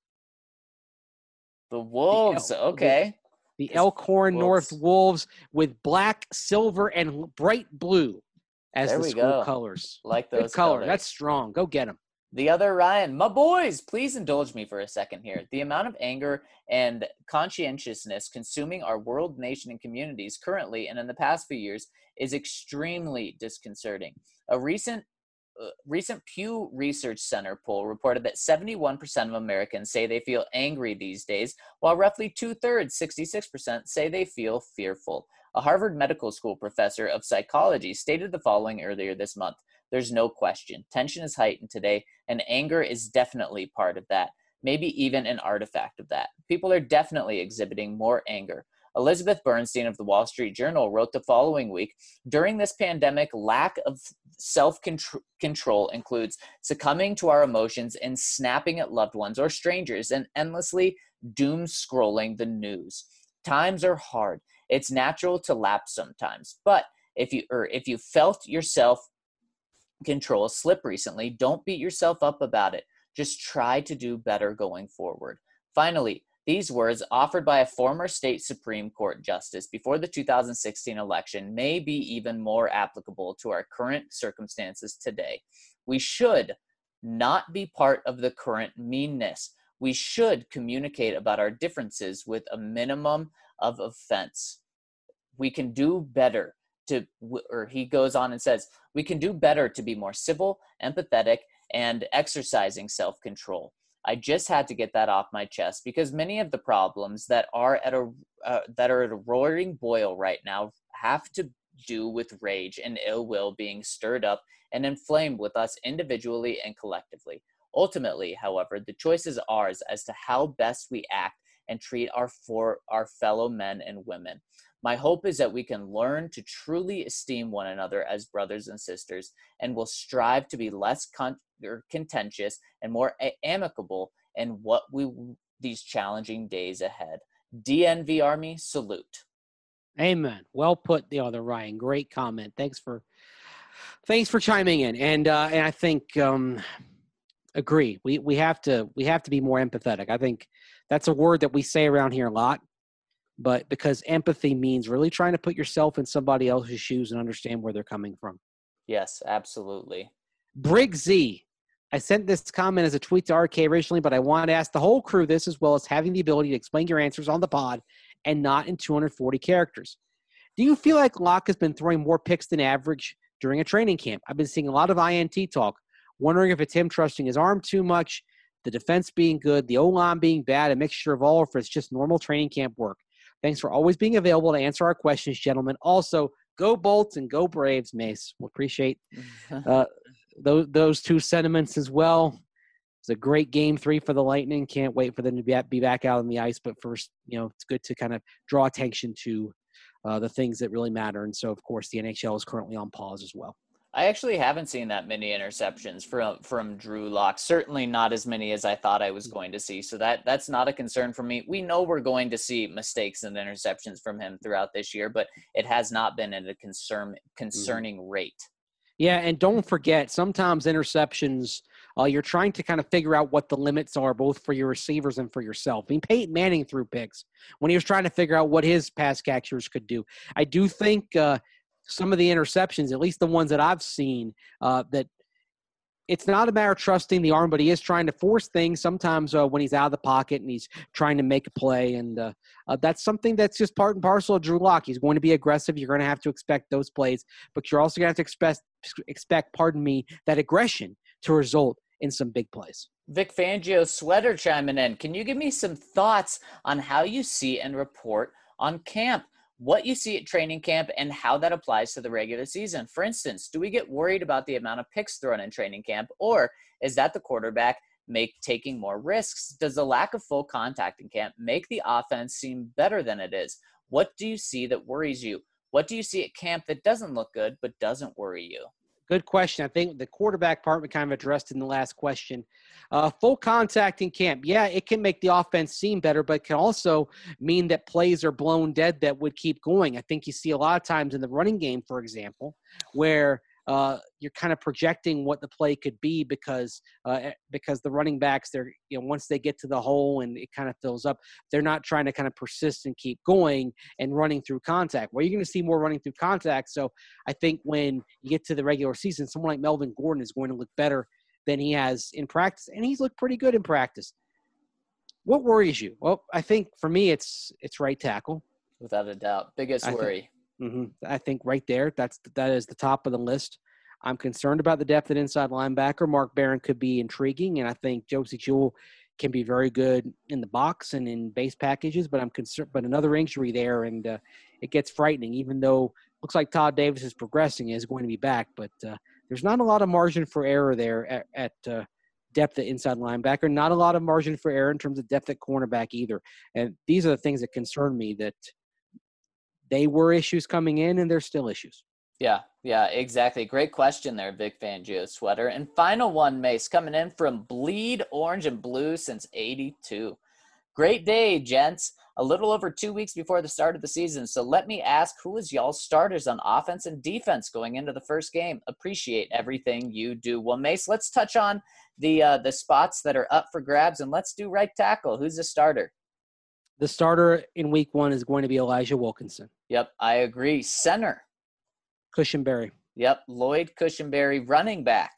The Wolves, El- okay. The It's Elkhorn North Wolves. Wolves with black, silver, and bright blue as There the we school go. colors. Like Good those color. colors. That's strong. Go get them. The other Ryan, my boys, please indulge me for a second here. The amount of anger and conscientiousness consuming our world, nation, and communities currently and in the past few years is extremely disconcerting. A recent uh, recent Pew Research Center poll reported that seventy-one percent of Americans say they feel angry these days, while roughly two-thirds, sixty-six percent, say they feel fearful. A Harvard Medical School professor of psychology stated the following earlier this month. There's no question. Tension is heightened today, and anger is definitely part of that, maybe even an artifact of that. People are definitely exhibiting more anger. Elizabeth Bernstein of the Wall Street Journal wrote the following week, during this pandemic, lack of self-control includes succumbing to our emotions and snapping at loved ones or strangers and endlessly doom scrolling the news. Times are hard. It's natural to lapse sometimes, but if you or if you felt yourself control slip recently, don't beat yourself up about it. Just try to do better going forward. Finally, these words offered by a former state Supreme Court justice before the two thousand sixteen election may be even more applicable to our current circumstances today. We should not be part of the current meanness. We should communicate about our differences with a minimum of offense. We can do better to, or he goes on and says, we can do better to be more civil, empathetic, and exercising self-control. I just had to get that off my chest because many of the problems that are at a uh, that are at a roaring boil right now have to do with rage and ill will being stirred up and inflamed with us individually and collectively. Ultimately, however, the choice is ours as to how best we act and treat our for our fellow men and women. My hope is that we can learn to truly esteem one another as brothers and sisters, and will strive to be less con- or contentious and more a- amicable in what we these challenging days ahead. D N V Army, salute. Amen. Well put, the other Ryan. Great comment. Thanks for thanks for chiming in. And uh, and I think um, agree. We we have to we have to be more empathetic. I think that's a word that we say around here a lot. But because empathy means really trying to put yourself in somebody else's shoes and understand where they're coming from. Yes, absolutely. Brig Z. I sent this comment as a tweet to R K originally, but I want to ask the whole crew this, as well as having the ability to explain your answers on the pod and not in two hundred forty characters. Do you feel like Locke has been throwing more picks than average during a training camp? I've been seeing a lot of I N T talk, wondering if it's him trusting his arm too much, the defense being good, the O-line being bad, a mixture of all, or if it's just normal training camp work. Thanks for always being available to answer our questions, gentlemen. Also, go Bolts and go Braves, Mace. We'll appreciate uh, those, those two sentiments as well. It's a great game three for the Lightning. Can't wait for them to be, be back out on the ice. But first, you know, it's good to kind of draw attention to uh, the things that really matter. And so, of course, the N H L is currently on pause as well. I actually haven't seen that many interceptions from from Drew Lock. Certainly not as many as I thought I was going to see. So that that's not a concern for me. We know we're going to see mistakes and interceptions from him throughout this year, but it has not been at a concern concerning mm-hmm. rate. Yeah, and don't forget, sometimes interceptions, uh, you're trying to kind of figure out what the limits are, both for your receivers and for yourself. I mean, Peyton Manning threw picks when he was trying to figure out what his pass catchers could do. I do think uh, some of the interceptions, at least the ones that I've seen, uh, that it's not a matter of trusting the arm, but he is trying to force things sometimes uh, when he's out of the pocket and he's trying to make a play. And uh, uh, that's something that's just part and parcel of Drew Lock. He's going to be aggressive. You're going to have to expect those plays, but you're also going to have to expect, expect, pardon me, that aggression to result in some big plays. Vic Fangio Sweater chiming in. Can you give me some thoughts on how you see and report on camp? What you see at training camp and how that applies to the regular season. For instance, do we get worried about the amount of picks thrown in training camp, or is that the quarterback make taking more risks? Does the lack of full contact in camp make the offense seem better than it is? What do you see that worries you? What do you see at camp that doesn't look good but doesn't worry you? Good question. I think the quarterback part we kind of addressed in the last question. Uh, full contact in camp. Yeah, it can make the offense seem better, but it can also mean that plays are blown dead that would keep going. I think you see a lot of times in the running game, for example, where uh, you're kind of projecting what the play could be because uh, because the running backs, they're, you know, once they get to the hole and it kind of fills up, they're not trying to kind of persist and keep going and running through contact. Well, you're going to see more running through contact. So I think when you get to the regular season, someone like Melvin Gordon is going to look better than he has in practice, and he's looked pretty good in practice. What worries you? Well, I think for me, it's it's right tackle. Without a doubt. Biggest I worry. Think, mm-hmm, I think right there, that's that is the top of the list. I'm concerned about the depth at inside linebacker. Mark Barron could be intriguing, and I think Josie Jewell can be very good in the box and in base packages, but I'm concerned. But another injury there, and uh, it gets frightening, even though looks like Todd Davis is progressing, is going to be back, but uh, there's not a lot of margin for error there at, at uh, depth at inside linebacker, not a lot of margin for error in terms of depth at cornerback either. And these are the things that concern me, that they were issues coming in and they're still issues. Yeah, yeah, exactly. Great question there, Vic Fangio Sweater. And final one, Mace, coming in from Bleed Orange and Blue since eighty-two. Great day, gents. A little over two weeks before the start of the season. So let me ask, who is y'all's starters on offense and defense going into the first game? Appreciate everything you do. Well, Mace, let's touch on the uh, the spots that are up for grabs, and let's do right tackle. Who's the starter? The starter in week one is going to be Elijah Wilkinson. Yep, I agree. Center. Cushenberry. Yep, Lloyd Cushenberry. Running back.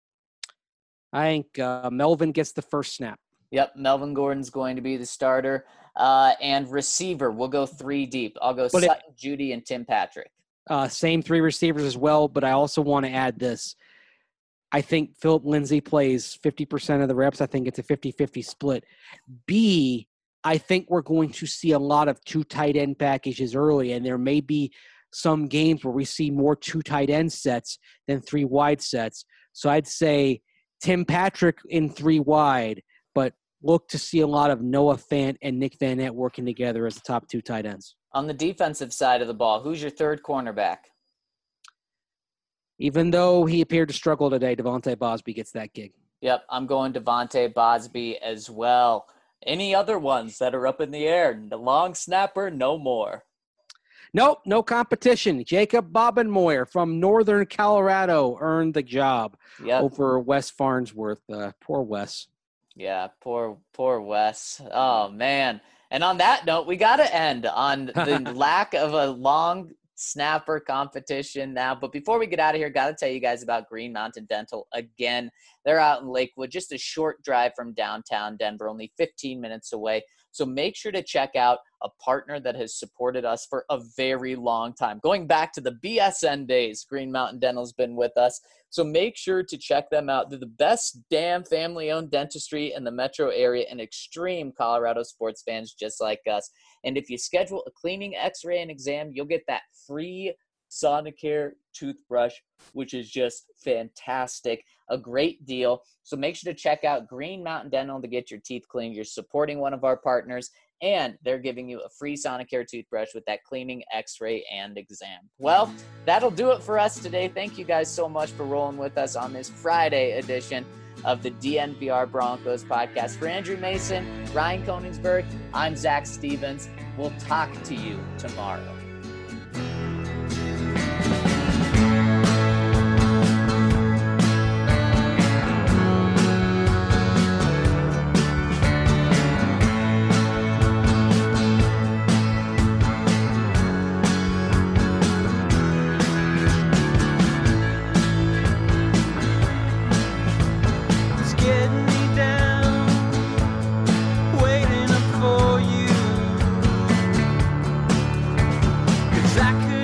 I think uh, Melvin gets the first snap. Yep, Melvin Gordon's going to be the starter. Uh, and receiver, we'll go three deep. I'll go but Sutton, it, Judy, and Tim Patrick. Uh, same three receivers as well, but I also want to add this. I think Philip Lindsay plays fifty percent of the reps. I think it's a fifty-fifty split. B, I think we're going to see a lot of two tight end packages early, and there may be some games where we see more two tight end sets than three wide sets. So I'd say Tim Patrick in three wide, but look to see a lot of Noah Fant and Nick Van Nett working together as the top two tight ends. On the defensive side of the ball, who's your third cornerback? Even though he appeared to struggle today, Devontae Bosby gets that gig. Yep, I'm going Devontae Bosby as well. Any other ones that are up in the air? The long snapper, no more. Nope, no competition. Jacob Bobenmoyer from Northern Colorado earned the job yep. over Wes Farnsworth. Uh, poor Wes. Yeah, poor, poor Wes. Oh, man. And on that note, we got to end on the lack of a long snapper competition now. But before we get out of here, got to tell you guys about Green Mountain Dental again. They're out in Lakewood, just a short drive from downtown Denver, only fifteen minutes away. So make sure to check out a partner that has supported us for a very long time. Going back to the B S N days, Green Mountain Dental's been with us. So make sure to check them out. They're the best damn family-owned dentistry in the metro area and extreme Colorado sports fans just like us. And if you schedule a cleaning, x-ray, and exam, you'll get that free Sonicare toothbrush, which is just fantastic. A great deal. So make sure to check out Green Mountain Dental to get your teeth cleaned. You're supporting one of our partners, and they're giving you a free Sonicare toothbrush with that cleaning, x-ray, and exam. Well, that'll do it for us today. Thank you guys so much for rolling with us on this Friday edition of the D N V R Broncos podcast. For Andrew Mason, Ryan Koenigsberg, I'm Zach Stevens. We'll talk to you tomorrow. I could